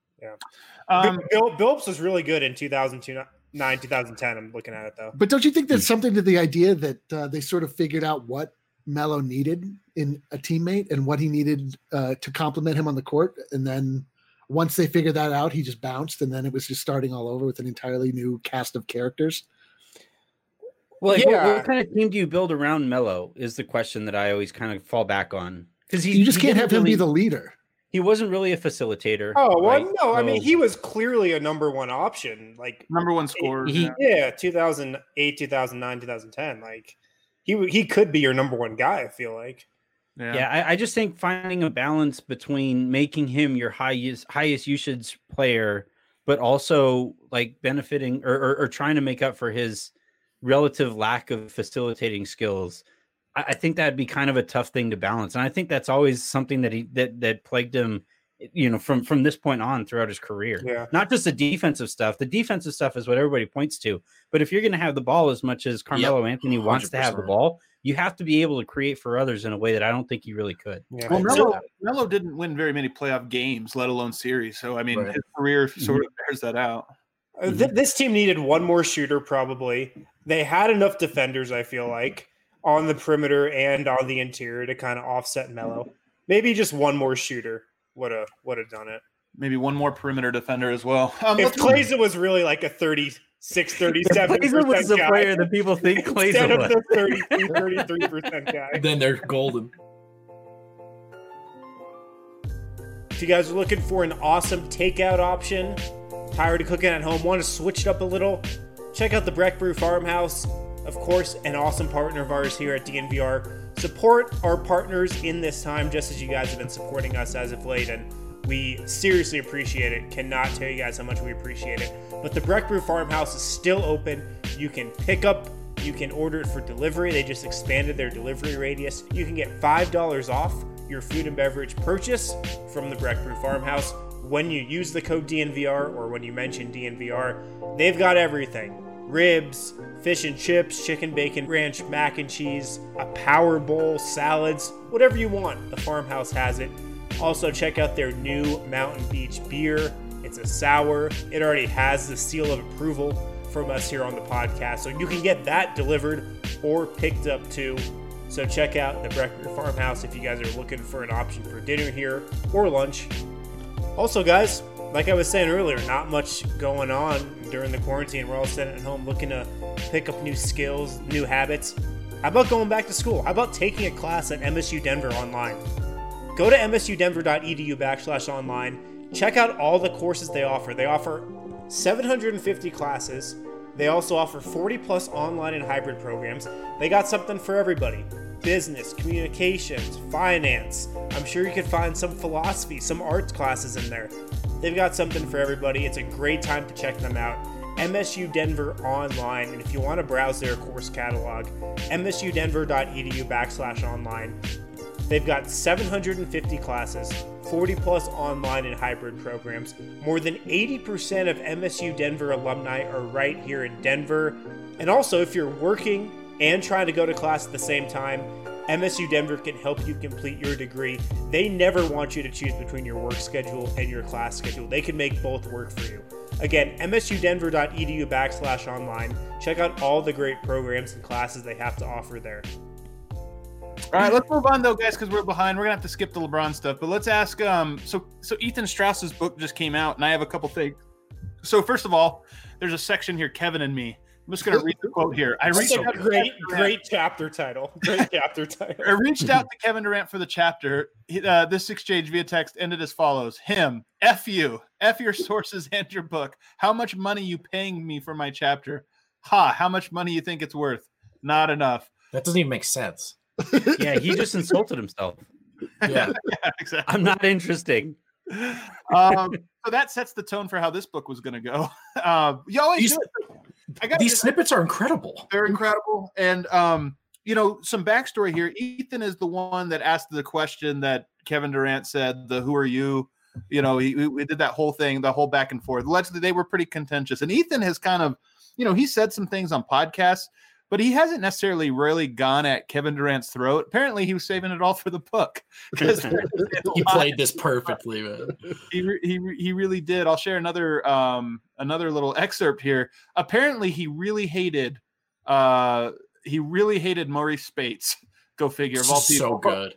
Um, Bill, Billups was really good in two thousand nine, two thousand ten. I'm looking at it though. But don't you think there's something to the idea that uh, they sort of figured out what Melo needed in a teammate and what he needed uh, to complement him on the court, and then once they figured that out, he just bounced, and then it was just starting all over with an entirely new cast of characters. Well, like, what, Yeah. what kind of team do you build around Melo is the question that I always kind of fall back on. Because You just can't have him be the leader. He wasn't really a facilitator. Oh well, right? no, I mean So- he was clearly a number one option. Like number one scorer. He- yeah. yeah, two thousand eight, two thousand nine, two thousand ten. Like he w- he could be your number one guy. I feel like. Yeah. Yeah, I, I just think finding a balance between making him your highest highest usage player, but also like benefiting or, or, or trying to make up for his relative lack of facilitating skills. I, I think that'd be kind of a tough thing to balance, and I think that's always something that he that that plagued him, you know, from from this point on throughout his career. Yeah. Not just the defensive stuff. The defensive stuff is what everybody points to, but if you're going to have the ball as much as Carmelo Anthony wants to have the one hundred percent. ball, you have to be able to create for others in a way that I don't think he really could. Yeah. Well, Right. Melo, Melo didn't win very many playoff games, let alone series. So, I mean, Right. his career sort of bears that out. Uh, th- this team needed one more shooter, probably. They had enough defenders, I feel like, on the perimeter and on the interior to kind of offset Melo. Maybe just one more shooter would have would have done it. Maybe one more perimeter defender as well. Um, If let's- Klaiza was really like a thirty-six, thirty-seven Klaiza was the guy, player that people think instead Klaiza of was. the thirty-two, thirty-three percent guy. Then they're golden. If you guys are looking for an awesome takeout option, tired of cooking at home, want to switch it up a little, check out the Breck Brew Farmhouse. Of course, an awesome partner of ours here at D N V R. Support our partners in this time, just as you guys have been supporting us as of late, and we seriously appreciate it. Cannot tell you guys how much we appreciate it. But the Breck Brew Farmhouse is still open. You can pick up, you can order it for delivery. They just expanded their delivery radius. You can get five dollars off your food and beverage purchase from the Breck Brew Farmhouse when you use the code D N V R or when you mention D N V R. They've got everything. Ribs, fish and chips, chicken bacon ranch, mac and cheese, a power bowl, salads, whatever you want. The Farmhouse has it. Also, check out their new Mountain Beach beer. It's a sour. It already has the seal of approval from us here on the podcast. So you can get that delivered or picked up too. So check out the Breck Brew Farmhouse if you guys are looking for an option for dinner here or lunch. Also, guys, like I was saying earlier, not much going on during the quarantine. We're all sitting at home looking to pick up new skills, new habits. How about going back to school? How about taking a class at M S U Denver online? Go to msudenver.edu backslash online. Check out all the courses they offer. They offer seven hundred fifty classes. They also offer forty plus online and hybrid programs. They got something for everybody. Business, communications, finance. I'm sure you could find some philosophy, some arts classes in there. They've got something for everybody. It's a great time to check them out. M S U Denver online. And if you want to browse their course catalog, msudenver.edu backslash online. They've got seven hundred fifty classes, forty plus online and hybrid programs. More than eighty percent of M S U Denver alumni are right here in Denver. And also, if you're working and trying to go to class at the same time, M S U Denver can help you complete your degree. They never want you to choose between your work schedule and your class schedule. They can make both work for you. Again, msudenver.edu backslash online. Check out all the great programs and classes they have to offer there. All right, let's move on though, guys, because we're behind. We're gonna have to skip the LeBron stuff, but let's ask. Um, so so Ethan Strauss's book just came out, and I have a couple things. So first of all, there's a section here, Kevin and Me. I'm just gonna read the quote here. I reached That's a out great, to great chapter title. Great chapter title. I reached out to Kevin Durant for the chapter. He- Uh, this exchange via text ended as follows: Him, F you, F your sources and your book. How much money you paying me for my chapter? Ha! How much money you think it's worth? Not enough. That doesn't even make sense. Yeah, he just insulted himself. Yeah. Yeah, exactly. I'm not interesting. um, so that sets the tone for how this book was going to go. Uh, you always These, do it. I got these snippets are incredible. They're incredible. And, um, you know, some backstory here. Ethan is the one that asked the question that Kevin Durant said, the who are you? You know, he, we did that whole thing, the whole back and forth. Allegedly, they were pretty contentious. And Ethan has kind of, you know, he said some things on podcasts, but he hasn't necessarily really gone at Kevin Durant's throat. Apparently, he was saving it all for the book. He played this perfectly, man. He, re- he, re- he really did. I'll share another um, another little excerpt here. Apparently, he really hated uh, he really hated Maurice Spates. Go figure. Of all people, So good.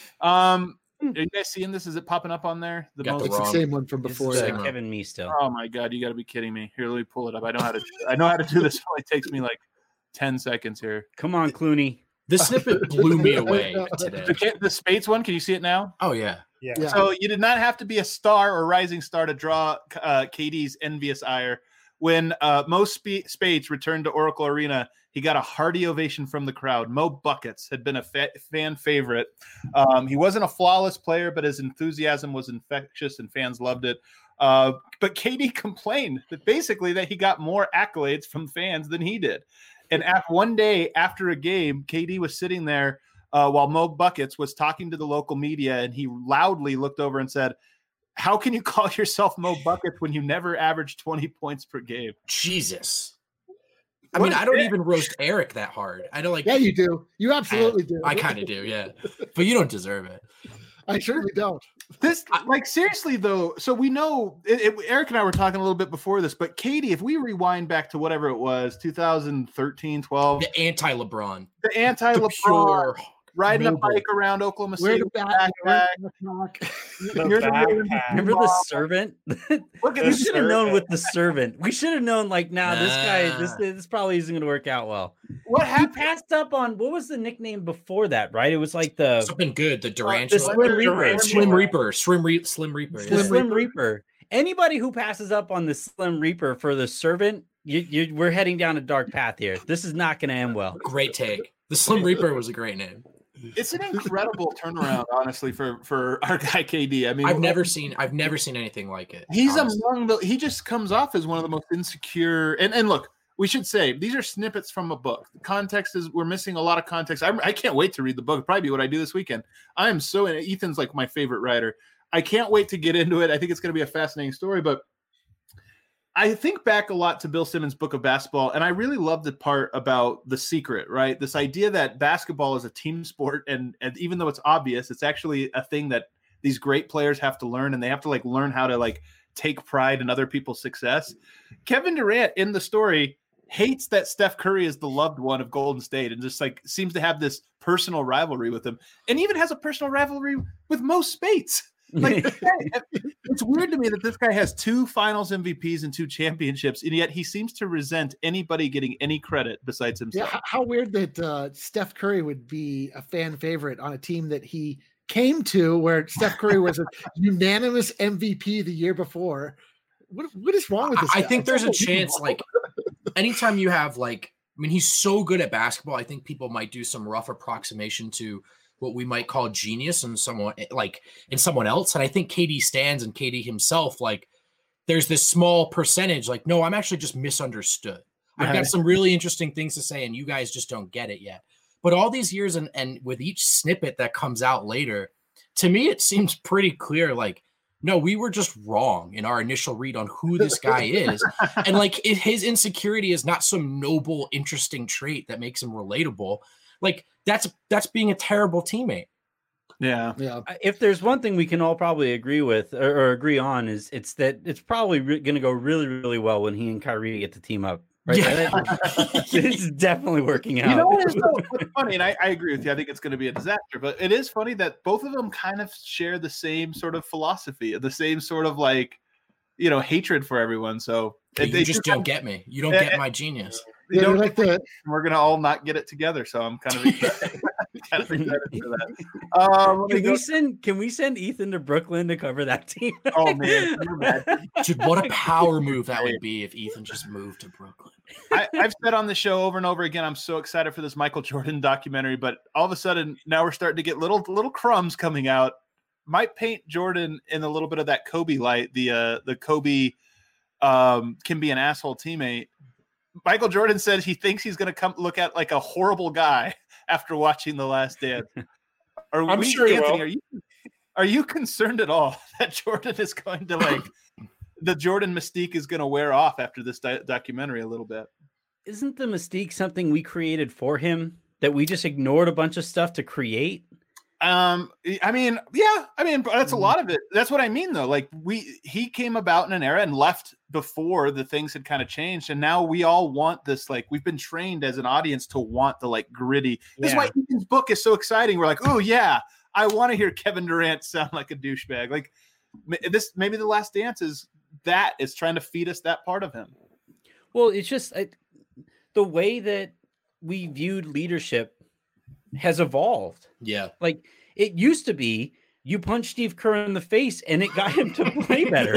Um, are you guys seeing this? Is it popping up on there? The Got the It's the wrong- same one from This before. is uh, yeah. Kevin Me still. Oh my god, you got to be kidding me! Here, let me pull it up. I know how to. I know how to do this. It only takes me like ten seconds here. Come on, Clooney. This snippet blew me away today. The, the Spates one. Can you see it now? Oh yeah. Yeah. Yeah. So you did not have to be a star or rising star to draw uh, K D's envious ire. When uh, Mo Sp- Spates returned to Oracle Arena, he got a hearty ovation from the crowd. Mo Buckets had been a fa- fan favorite. Um, he wasn't a flawless player, but his enthusiasm was infectious and fans loved it. Uh, but K D complained that basically that he got more accolades from fans than he did. And after one day after a game, K D was sitting there uh, while Mo Buckets was talking to the local media, and he loudly looked over and said, "How can you call yourself Mo Buckets when you never averaged twenty points per game?" Jesus. I What mean, a I don't dick. even roast Eric that hard. I don't like. Yeah, you do. You absolutely do. I kind of do, yeah. But you don't deserve it. I certainly don't. This, like, seriously though. So we know it, it, Eric and I were talking a little bit before this, but Katie, if we rewind back to whatever it was, two thousand thirteen, twelve, The anti-LeBron. the The anti-LeBron, pure. riding noble. a bike around Oklahoma Where City, the with back, a backpack. where's the knock? The You're the backpack. Remember the servant? Look at we The this. should have known servant. with the servant. We should have known, like, nah, this guy, this Nah. this probably isn't going to work out well. What He happened? passed up on what was the nickname before that, right? It was like the Something good. The the Durantula. Slim Reaper. Slim Reaper. Slim, Re- Slim Reaper. The yeah. Slim Slim Reaper. Anybody who passes up on the Slim Reaper for the servant, you, you, we're heading down a dark path here. This is not going to end well. Great take. The Slim Reaper was a great name. It's an incredible turnaround, honestly, for for our guy K D. I mean, I've never seen. I've never seen anything like it. He's honestly. among the. He just comes off as one of the most insecure. And and look, we should say these are snippets from a book. The context is we're missing a lot of context. I, I can't wait to read the book. It'll probably be what I do this weekend. I am so. Ethan's like my favorite writer. I can't wait to get into it. I think it's going to be a fascinating story. But I think back a lot to Bill Simmons' Book of Basketball, and I really love the part about the secret, right? This idea that basketball is a team sport, and, and even though it's obvious, it's actually a thing that these great players have to learn, and they have to like learn how to like take pride in other people's success. Kevin Durant in the story hates that Steph Curry is the loved one of Golden State, and just like seems to have this personal rivalry with him, and even has a personal rivalry with Mo Spates. Like, this guy- it's weird to me that this guy has two Finals M V Ps and two championships, and yet he seems to resent anybody getting any credit besides Yeah, himself. how, how weird that uh, Steph Curry would be a fan favorite on a team that he came to, where Steph Curry was a unanimous M V P the year before. What, what is wrong with this? I guy? think It's there's a unbelievable. chance, like, anytime you have, like, I mean, he's so good at basketball. I think people might do some rough approximation to what we might call genius in someone, like, in someone else. And I think K D stands and K D himself, like, there's this small percentage, like, no, I'm actually just misunderstood. I've Right. got some really interesting things to say, and you guys just don't get it yet. But all these years, and and with each snippet that comes out later, to me, it seems pretty clear, like, no, we were just wrong in our initial read on who this guy is. And like it, his insecurity is not some noble, interesting trait that makes him relatable. Like that's that's being a terrible teammate. Yeah. Yeah. If there's one thing we can all probably agree with or, or agree on is it's that it's probably re- going to go really, really well when he and Kyrie get to team up. Right? Yeah. It's definitely working out. You know what is so what's funny, and I, I agree with you. I think it's going to be a disaster, but it is funny that both of them kind of share the same sort of philosophy, the same sort of like, you know, hatred for everyone. So you they just don't get me. You don't Yeah, get my genius. you Yeah, don't like the we're gonna all not get it together. So I'm kind of excited, kind of excited for that. Um, let me Can go- we send can we send Ethan to Brooklyn to cover that team? oh man, can you imagine? Dude, what a power move that would be if Ethan just moved to Brooklyn. I, I've said on the show over and over again, I'm so excited for this Michael Jordan documentary, but all of a sudden now we're starting to get little little crumbs coming out. Might paint Jordan in a little bit of that Kobe light. The uh, the Kobe um, can be an asshole teammate. Michael Jordan said he thinks he's going to come look at like a horrible guy after watching The Last Dance. Are I'm we, sure he Anthony, will. are you are you concerned at all that Jordan is going to like the Jordan mystique is going to wear off after this di- documentary a little bit? Isn't the mystique something we created for him that we just ignored a bunch of stuff to create? Um, I mean, yeah, I mean, that's a lot of it. That's what I mean, though. Like we, he came about in an era and left before the things had kind of changed, and now we all want this. Like we've been trained as an audience to want the like gritty. This is why Ethan's book is so exciting. We're like, oh yeah, I want to hear Kevin Durant sound like a douchebag. Like this, maybe The Last Dance is that is trying to feed us that part of him. Well, it's just I, the way that we viewed leadership has evolved. Yeah. Like it used to be you punch Steve Kerr in the face and it got him to play better.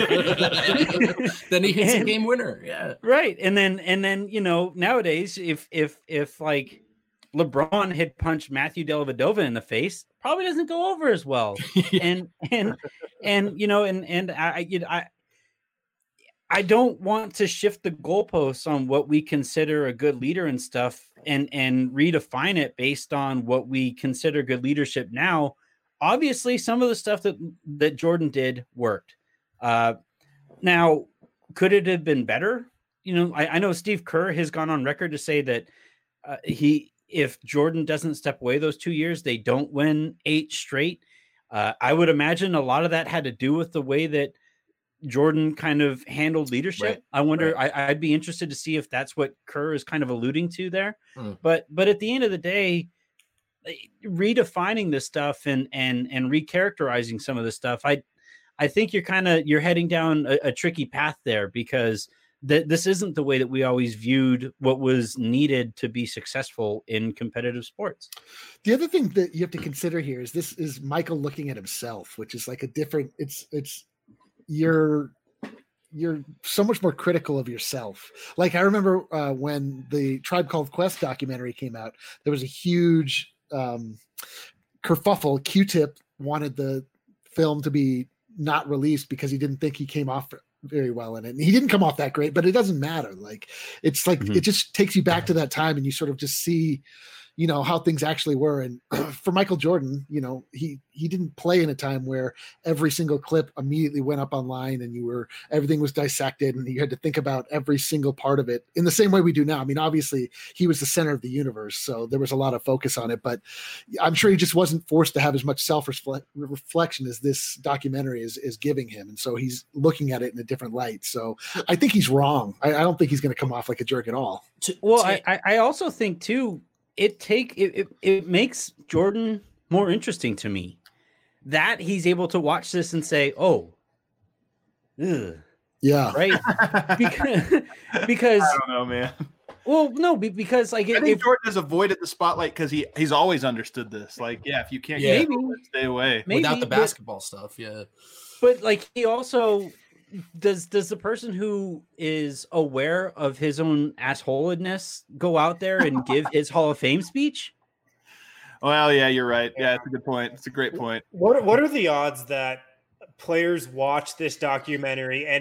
Then he hits And- a game winner. Yeah. Right. And then and then, you know, nowadays if if if like LeBron had punched Matthew Dellavedova in the face, probably doesn't go over as well. and and and you know, and and I you know, I I don't want to shift the goalposts on what we consider a good leader and stuff and and redefine it based on what we consider good leadership now. Obviously, some of the stuff that that Jordan did worked. Uh, now, could it have been better? You know, I, I know Steve Kerr has gone on record to say that uh, he, if Jordan doesn't step away those two years, they don't win eight straight. Uh, I would imagine a lot of that had to do with the way that Jordan kind of handled leadership. Right, I wonder, I, I'd be interested to see if that's what Kerr is kind of alluding to there. Mm. But, but at the end of the day, redefining this stuff and, and, and recharacterizing some of this stuff, I, I think you're kind of, you're heading down a, a tricky path there because th- this isn't the way that we always viewed what was needed to be successful in competitive sports. The other thing that you have to consider here is this is Michael looking at himself, which is like a different, it's, it's, you're, you're so much more critical of yourself. Like I remember uh, when the Tribe Called Quest documentary came out, there was a huge um, kerfuffle. Q-Tip wanted the film to be not released because he didn't think he came off very well in it. And he didn't come off that great, but it doesn't matter. Like it's like, Mhm. it just takes you back to that time and you sort of just see, you know, how things actually were. And for Michael Jordan, you know, he, he didn't play in a time where every single clip immediately went up online and you were, everything was dissected and you had to think about every single part of it in the same way we do now. I mean, obviously he was the center of the universe, so there was a lot of focus on it, but I'm sure he just wasn't forced to have as much self-reflection as this documentary is, is giving him. And so he's looking at it in a different light. So I think he's wrong. I, I don't think he's going to come off like a jerk at all. To- Well, to- I, I I also think too, it take it, it it makes Jordan more interesting to me that he's able to watch this and say, "Oh, ugh," Yeah. right?" because because I don't know, man. well, no, be- because like I if, think if Jordan has avoided the spotlight because he he's always understood this. Like, yeah, if you can't Yeah. get it, stay away. maybe without the but- basketball stuff. Yeah. But like he also does does the person who is aware of his own assholedness go out there and give his Hall of Fame speech? Well, yeah, you're right. Yeah, it's a good point. It's a great point. What What are the odds that players watch this documentary and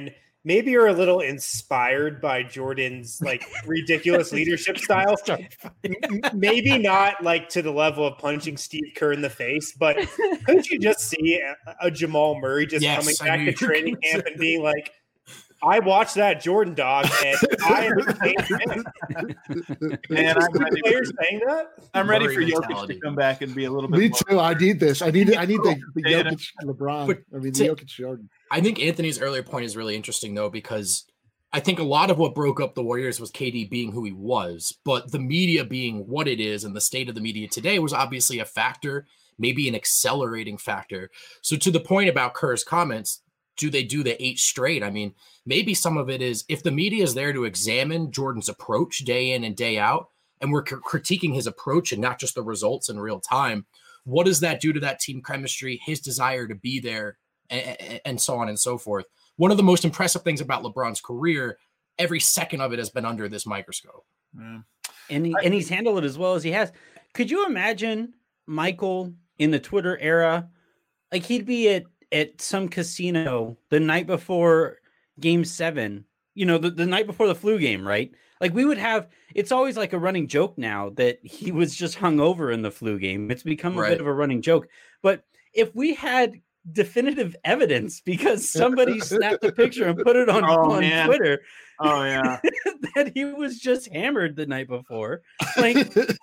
maybe you're a little inspired by Jordan's like ridiculous leadership style. M- maybe not like to the level of punching Steve Kerr in the face, but couldn't you just see a, a Jamal Murray just Yes, coming I back knew to you were training gonna camp say and being like, I watched that Jordan dog, and I am a fan. Man, I'm ready, Players for, saying that? I'm ready Murray for Jokic mentality. to come back and be a little bit Me more. too. I need this. I need. I need the, the Yeah. Jokic LeBron. But I mean, to- the Jokic Jordan. I think Anthony's earlier point is really interesting, though, because I think a lot of what broke up the Warriors was K D being who he was, but the media being what it is and the state of the media today was obviously a factor, maybe an accelerating factor. So to the point about Kerr's comments, do they do the eight straight? I mean, maybe some of it is if the media is there to examine Jordan's approach day in and day out, and we're c- critiquing his approach and not just the results in real time, what does that do to that team chemistry, his desire to be there, and, and so on and so forth? One of the most impressive things about LeBron's career, every second of it has been under this microscope. Yeah. and he, and he's handled it as well as he has. Could you imagine Michael in the Twitter era? Like he'd be at, at some casino the night before game seven, you know, the, the night before the flu game, right? Like we would have, it's always like a running joke now that he was just hungover in the flu game. It's become a Right. bit of a running joke. But if we had definitive evidence because somebody snapped a picture and put it on, Oh, on man. Twitter Oh yeah. that he was just hammered the night before, like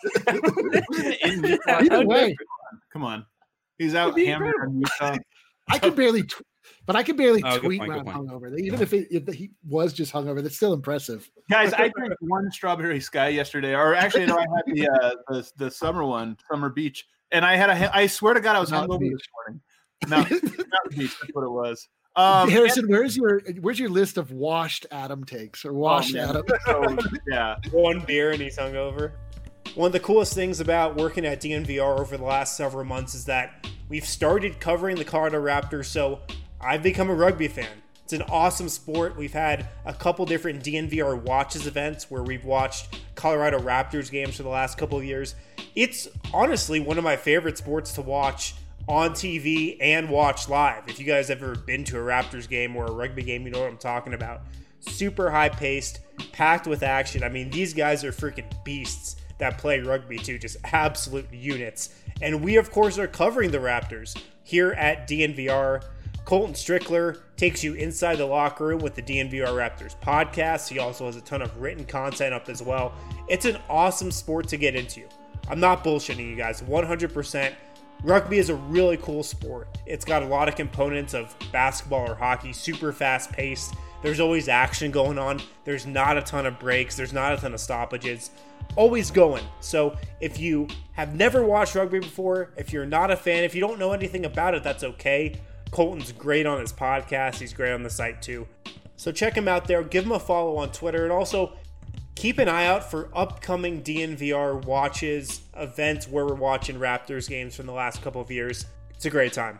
Either way, Come on. He's out It'd be hammered on Utah. I could barely, tw- but I could barely Oh, good tweet point, when good I'm point. hungover. Even if, it, if he was just hungover, that's still impressive. Guys, I drank one strawberry sky yesterday, or actually, no, I had the uh, the the summer one, Summer Beach, and I had a. I swear to God, I was Not hungover beach. this morning. No, not the beach. That's what it was. Um, Harrison, where's your where's your list of washed Adam takes or washed man. Adam? so, yeah, One beer and he's hungover. One of the coolest things about working at D N V R over the last several months is that we've started covering the Colorado Raptors, so I've become a rugby fan. It's an awesome sport. We've had a couple different D N V R Watches events where we've watched Colorado Raptors games for the last couple of years. It's honestly one of my favorite sports to watch on T V and watch live. If you guys have ever been to a Raptors game or a rugby game, you know what I'm talking about. Super high paced, packed with action. I mean, these guys are freaking beasts that play rugby too, just absolute units. And we, of course, are covering the Raptors here at D N V R. Colton Strickler takes you inside the locker room with the D N V R Raptors podcast. He also has a ton of written content up as well. It's an awesome sport to get into. I'm not bullshitting you guys, one hundred percent. Rugby is a really cool sport. It's got a lot of components of basketball or hockey, super fast paced. There's always action going on. There's not a ton of breaks. There's not a ton of stoppages. Always going. So if you have never watched rugby before, if you're not a fan, if you don't know anything about it, that's okay. Colton's great on his podcast. He's great on the site too. So check him out there. Give him a follow on Twitter. And also keep an eye out for upcoming D N V R watches, events where we're watching Raptors games from the last couple of years. It's a great time.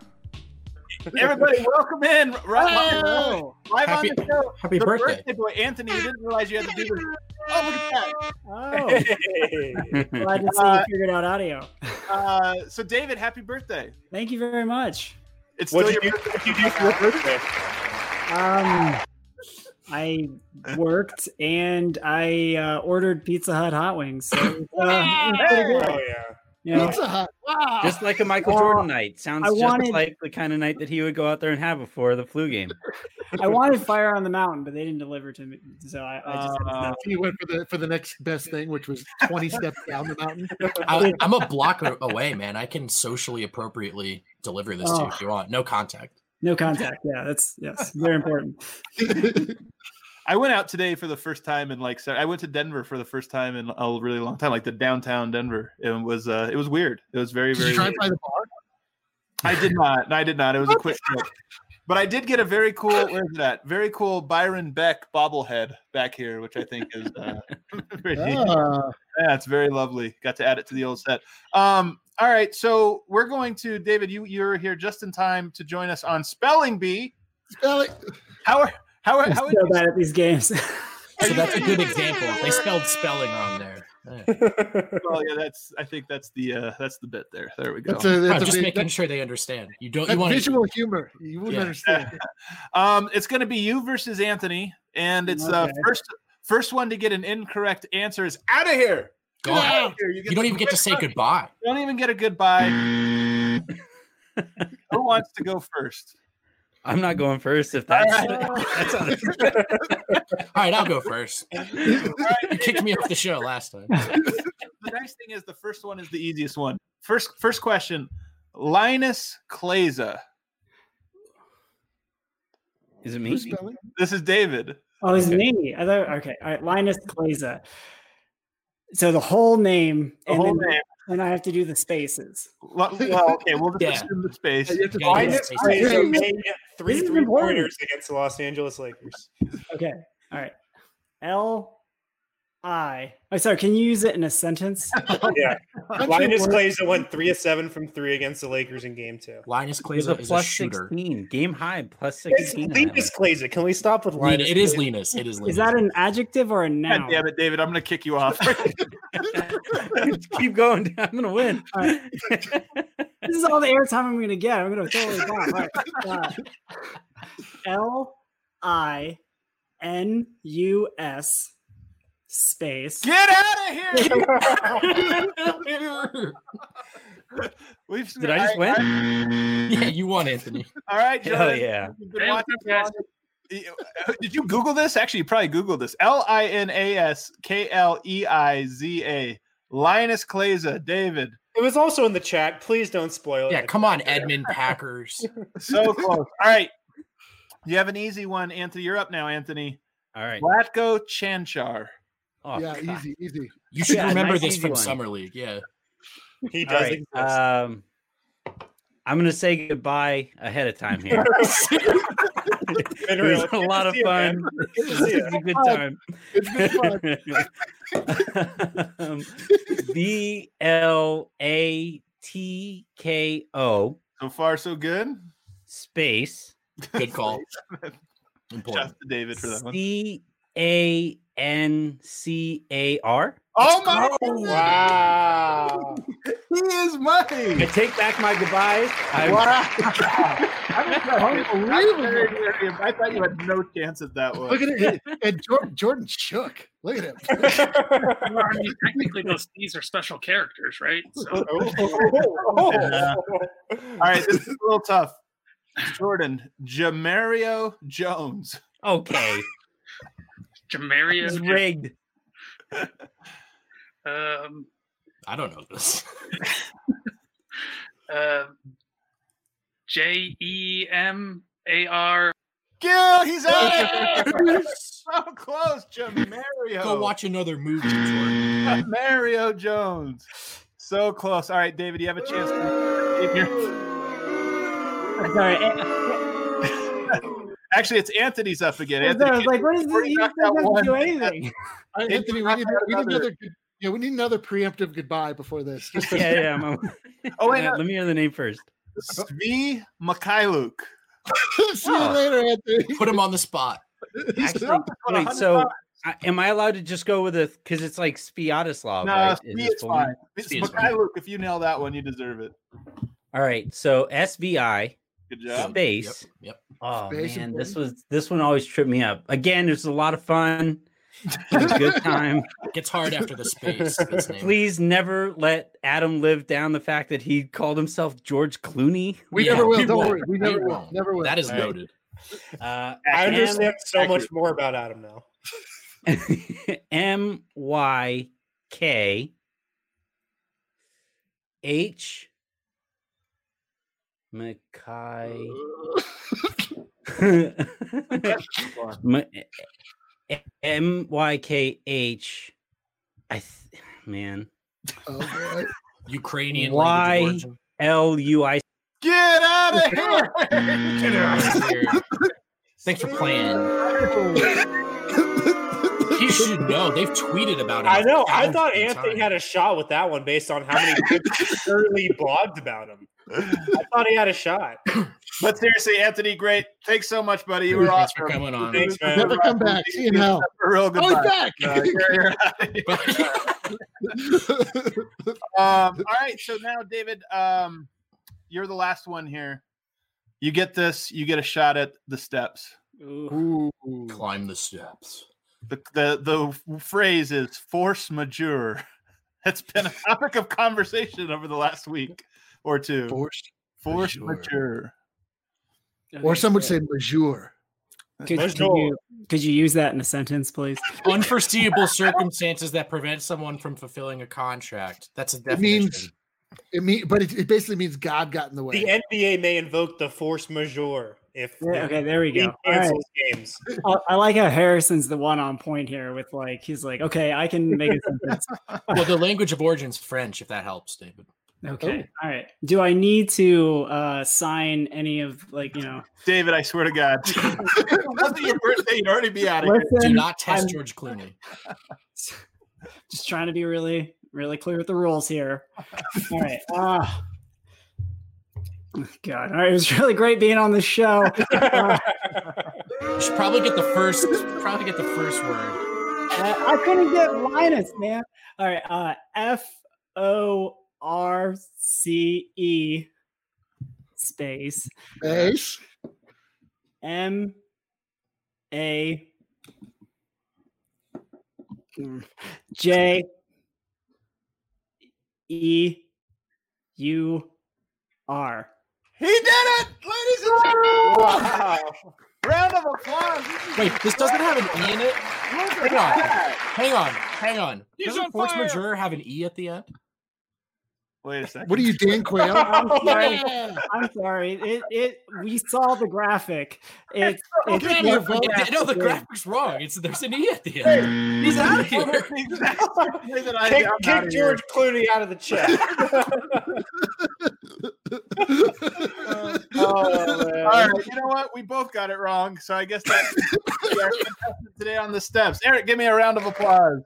everybody, welcome in. Right, Oh, live Happy- on the show. happy the birthday. boy, Anthony. You didn't realize you had to do this. Oh, look at oh. Hey. Glad to see Uh, you figured out audio. that. Uh, so, David, happy birthday. Thank you very much. It's still What'd your you, do, birthday. what'd you do for your birthday? Um, I worked and I uh, ordered Pizza Hut hot wings. So, uh, it was pretty good. Oh, yeah. You know, Pizza Hut. Wow. Just like a Michael Well, Jordan night. Sounds I just wanted- like the kind of night that he would go out there and have before the flu game. I wanted Fire on the Mountain, but they didn't deliver to me. So I, I just Uh, no. He went for the for the next best thing, which was twenty steps down the mountain. I, I'm a block a- away, man. I can socially appropriately deliver this to you Oh. if you want. No contact. No contact. Yeah, that's yes, very important. I went out today for the first time in like se- I went to Denver for the first time in a really long time, like the downtown Denver. It was uh, it was weird. It was very Did very. you try weird. by the bar? I did not. No, I did not. It was a quick trip. But I did get a very cool. Where's that? Very cool Byron Beck bobblehead back here, which I think is. Uh, pretty, Ah, Yeah, it's very lovely. Got to add it to the old set. Um, all right, so we're going to David. You you're here just in time to join us on Spelling Bee. spell it. How are how are I'm how are so you, bad at these games. So that's a good example. They spelled spelling wrong there. Yeah. Well, yeah, that's. I think that's the uh, that's the bit there. There we go. That's a, that's I'm a just big- making that- sure they understand. You don't. You that's want visual humor. You wouldn't Yeah. understand. um, it's going to be you versus Anthony, and it's uh Okay. first first one to get an incorrect answer is out of here. Go Get out. out of here. You don't even get to say goodbye. You don't even get a goodbye. Who wants to go first? I'm not going first if that's, that's on All right, I'll go first. You kicked me off the show last time. The nice thing is the first one is the easiest one. First first question. Linus Kleza. Is it me? Who's spelling? This is David. Oh, it's Okay. me. I thought, okay. All right. Linus Kleza. So the whole name, The and whole then, name. then I have to do the spaces. Well, well, okay, we'll just Yeah. assume the space. You have to Yeah, find yeah. it. Linus Kleza Kleza. made three This is three important. pointers against the Los Angeles Lakers. Okay. All right. L I. Oh, sorry. Can you use it in a sentence? Yeah, Country Linus word. Kleza went three of seven from three against the Lakers in Game Two. Linus It was Kleza a is a plus shooter. sixteen. Game high, plus It's sixteen. on that Linus Kleza. Can we stop with Lin- Linus? It is Kleza? Linus. It is Linus. Is that an adjective or a God noun? damn it, David. I'm going to kick you off. one. Keep going. I'm going to win. All right. This is all the airtime I'm going to get. I'm going to totally bomb. All right. Uh, L I N U S space. Get out of here. We've, Did I just win? Yeah, you won, Anthony. all right, Hell Jordan. yeah. You've been watching long- Did you Google this? Actually, you probably Googled this. L I N A S K L E I Z A. Linus Kleza. David. It was also in the chat. Please don't spoil it. Yeah, come on, Edmund Packers. So close. All right. You have an easy one, Anthony. You're up now, Anthony. All right. Vlatko Chanchar. Oh, yeah, God. easy, easy. You should Yeah, remember nice this easy from one. Summer League. Yeah. He All does right. exist. Um, I'm going to say goodbye ahead of time here. Been It real. was a Good lot to of see you, man. fun. Good to see It you. was a good time. It's good fun. um, B L A T K O So far, so good. space Good call. Important. Just to David for that one. C A N C A R. Oh my Wow. He is I mine. take back my goodbyes. I, Wow. Unbelievable. I thought you had no chance at that one. Look at it. And Jordan, Jordan shook. Look at him. Well, I mean, technically, those these are special characters, right? So, All right, this is a little tough. Jordan, Jamario Jones. okay, Jamario, it's rigged. um, I don't know this. uh, J E M A R. Gil, he's out of here. So close, Jamario. Go watch another movie, Jordan. Jamario Jones. So close. All right, David, you have a chance to in your- Sorry. eh, Actually, it's Anthony's up again. I was Anthony, like, what is this? already You knocked don't out have to one. do anything. Anthony, we knocked need, out we need another. another. good- Yeah, we need another preemptive goodbye before this. Just Yeah, yeah. I'm, Oh, wait, let no. me hear the name first. Svi Mikhailuk. see you Oh. later, Anthony. Put him on the spot. Actually, wait. So, I, am I allowed to just go with a? Because it's like Spiatoslav. No, right? Svi his is full fine. name? It's Svi is fine. Mikhailuk. If you nail that one, you deserve it. All right. So S V I Good job. space. Yep. Yep. Oh Space man, this important. was this one always tripped me up. Again, there's a lot of fun. It was a good time. Gets hard after the space. That's named. Please never let Adam live down the fact that he called himself George Clooney. We Yeah, never will. we Don't won't. worry. We We never will. won't. Never will. That is All right. noted. Uh, I Accurate. understand so much Accurate. more about Adam now. M Y K H Mackay M Y K H I th- man Oh, boy. Ukrainian Why? language of origin. L U I Get out of here. Get out of here. Thanks for playing. He should know. They've tweeted about it. I know. I a thought thousand Anthony times. had a shot with that one based on how many people early blogged about him. I thought he had a shot. But seriously, Anthony, great. Thanks so much, buddy. You were Thanks awesome. for coming on. Thanks, man. Never come back. See you now. A real good Oh, he's back. Uh, you're- you're- um, all right, so now, David, um, you're the last one here. You get this. You get a shot at the steps. Ooh. Ooh. Climb the steps. The the the phrase is force majeure. It's been a topic of conversation over the last week or two. Force. Force majeure. majeure. Or some would say majeure. Could, There's could no- you could you use that in a sentence, please? Unforeseeable circumstances that prevent someone from fulfilling a contract. That's a It definition. means it mean, but it, it basically means God got in the way. The N B A may invoke the force majeure if Yeah, okay, there we he go. All right. cancels games. I, I like how Harrison's the one on point here with like he's like, okay, I can make a sentence. Well, the language of origin is French, if that helps, David. Okay, all right. Do I need to uh sign any of like you know? David, I swear to God. Wasn't your birthday, you'd already be out of here. Listen, Do not test I'm George Clooney. just trying to be really, really clear with the rules here. All right. Uh, God, all right. It was really great being on the show. Uh, You should probably get the first. Probably get the first word. I couldn't get Linus, man. All right. Uh, F O R C E space Space. M A J E U R. He did it, ladies and gentlemen. Wow. Round of applause. Wait, this doesn't have an e in it. Hang on, hang on, hang on. He's Doesn't on force fire. majeure have an e at the end? Wait a second. What are you, Dan Quayle? I'm sorry. I'm sorry. It it we saw the graphic. It's it's Okay, more no, graphic. no, the graphic's wrong. It's there's an e at the end. He's out of here. Exactly that I- Kick, I'm kick outta here. George Clooney out of the chat. oh, man. All right, you know what? We both got it wrong, so I guess that's our contestant today on the steps. Eric, give me a round of applause.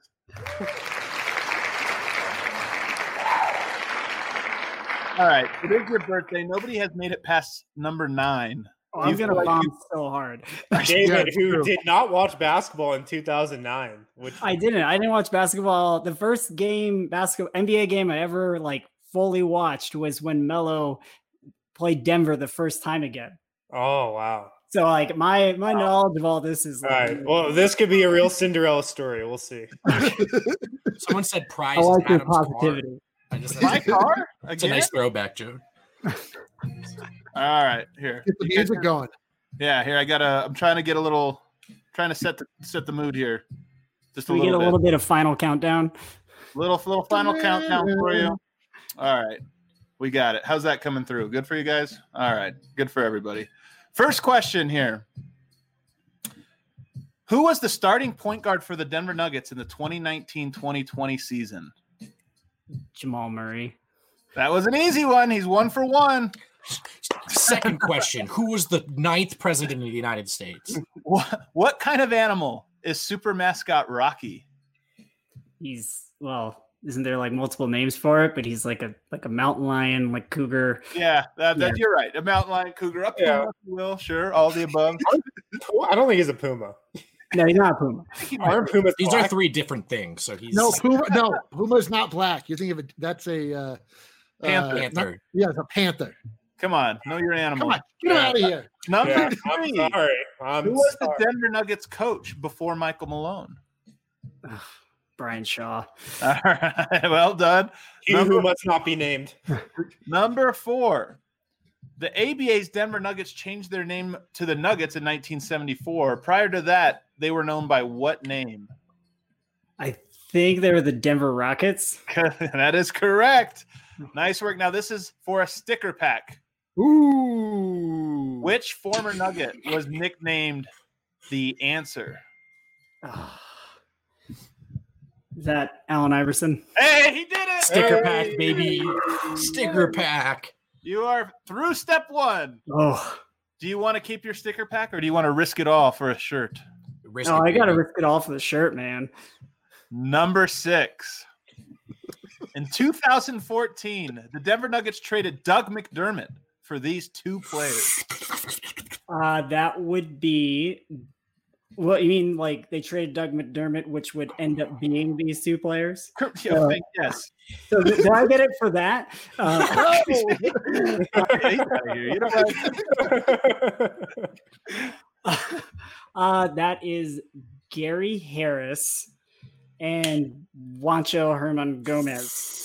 All right, it is your birthday. Nobody has made it past number nine. Oh, I'm You gonna feel like bomb you- so hard. David, it's who true. did not watch basketball in two thousand nine, which I didn't. I didn't watch basketball. The first game, basketball N B A game I ever like fully watched was when Melo played Denver the first time again. oh wow. So like my my knowledge of all this is All like, right. Well, this could be a real Cinderella story. We'll see. Someone said prize I is like your Adam's car. positivity. I just, My car? it's a Again? nice throwback, Joe. All right, here. Get the music going. Yeah, here I got to I'm trying to get a little trying to set the set the mood here. Just a Can we get little a bit. little bit of final countdown? Little little final countdown for you. All right. We got it. How's that coming through? Good for you guys? All right. Good for everybody. First question here. Who was the starting point guard for the Denver Nuggets in the twenty nineteen twenty twenty season? Jamal Murray. That was an easy one. He's one for one. Second question: who was the ninth president of the United States? What, what kind of animal is super mascot Rocky? He's well, isn't there like multiple names for it? But he's like a like a mountain lion, like cougar. Yeah, that, that, you're right. A mountain lion, cougar, up Yeah. if you will. Sure, all the above. I don't think he's a puma. No, he's not a puma. Aren't pumas These are black? three different things. So he's No, Puma. No, Puma's not black. You think of it? That's a uh, Panther. uh, not- Panther. yeah, it's a panther. Come on, know your animal. Come on, get him Yeah. out of here. Number Yeah, I'm three. sorry. I'm Who was sorry. the Denver Nuggets coach before Michael Malone? Brian Shaw. All right, well done. He who Number, must not be named. number four. The A B A's Denver Nuggets changed their name to the Nuggets in nineteen seventy-four. Prior to that, they were known by what name? I think they were the Denver Rockets. That is correct. Nice work. Now, this is for a sticker pack. Ooh. Which former Nugget was nicknamed the Answer? Ah. Is that Allen Iverson? Hey, he did it! sticker Hey. pack, baby. Sticker pack. You are through step one. Oh, Do you want to keep your sticker pack or do you want to risk it all for a shirt? Risk no, it, I gotta baby. risk it all for the shirt, man. Number six. In two thousand fourteen, the Denver Nuggets traded Doug McDermott for these two players? Uh, that would be. Well, you mean like they traded Doug McDermott, which would end up being these two players? Yeah, Uh, yes. So th- did I get it for that? Uh, You know what? uh, that is Gary Harris and Juancho Herman Gomez.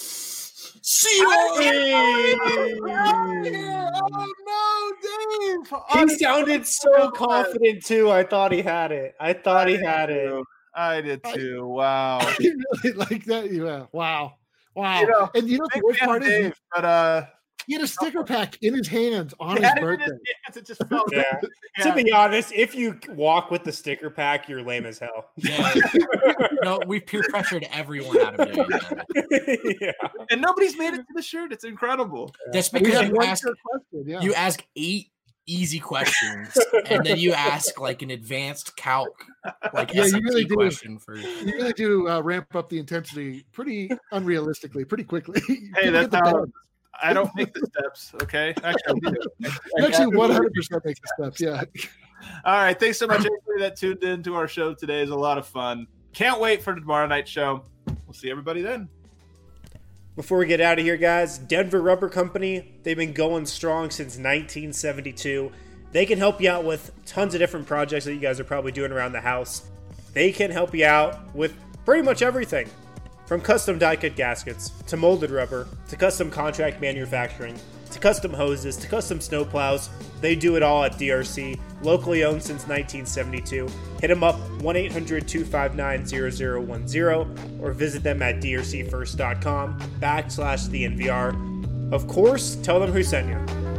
Oh no, Dave! He sounded so confident too. I thought he had it. I thought he had it. I did too. Wow. I really like that. Yeah. Wow. Wow. You know, and you know the Big worst fan part of is Dave, but uh, he had a sticker pack in his hands on he his had it in birthday. his hands, it just felt Yeah. Yeah. To be honest, if you walk with the sticker pack, you're lame as hell. Yeah. No, we've peer pressured everyone out of doing that. Yeah. And nobody's made it to the shirt. It's incredible. That's We because had you one ask good question. Yeah. you ask eight easy questions and then you ask like an advanced calc like Yeah, you S A T really do. question for you really do uh, ramp up the intensity pretty unrealistically, pretty quickly. Hey, People that's get the how balance. I don't make the steps. Okay, actually, I do. You actually one hundred percent make the steps. Yeah. All right, thanks so much, everybody that tuned in to our show today. It was a lot of fun. Can't wait for the tomorrow night show. We'll see everybody then. Before we get out of here, guys, Denver Rubber Company, they've been going strong since nineteen seventy-two. They can help you out with tons of different projects that you guys are probably doing around the house. They can help you out with pretty much everything. From custom die-cut gaskets, to molded rubber, to custom contract manufacturing, to custom hoses, to custom snowplows. They do it all at D R C, locally owned since nineteen seventy-two. Hit them up, one eight hundred two five nine zero zero one zero, or visit them at drcfirst.com backslash the NVR. Of course, tell them who sent you.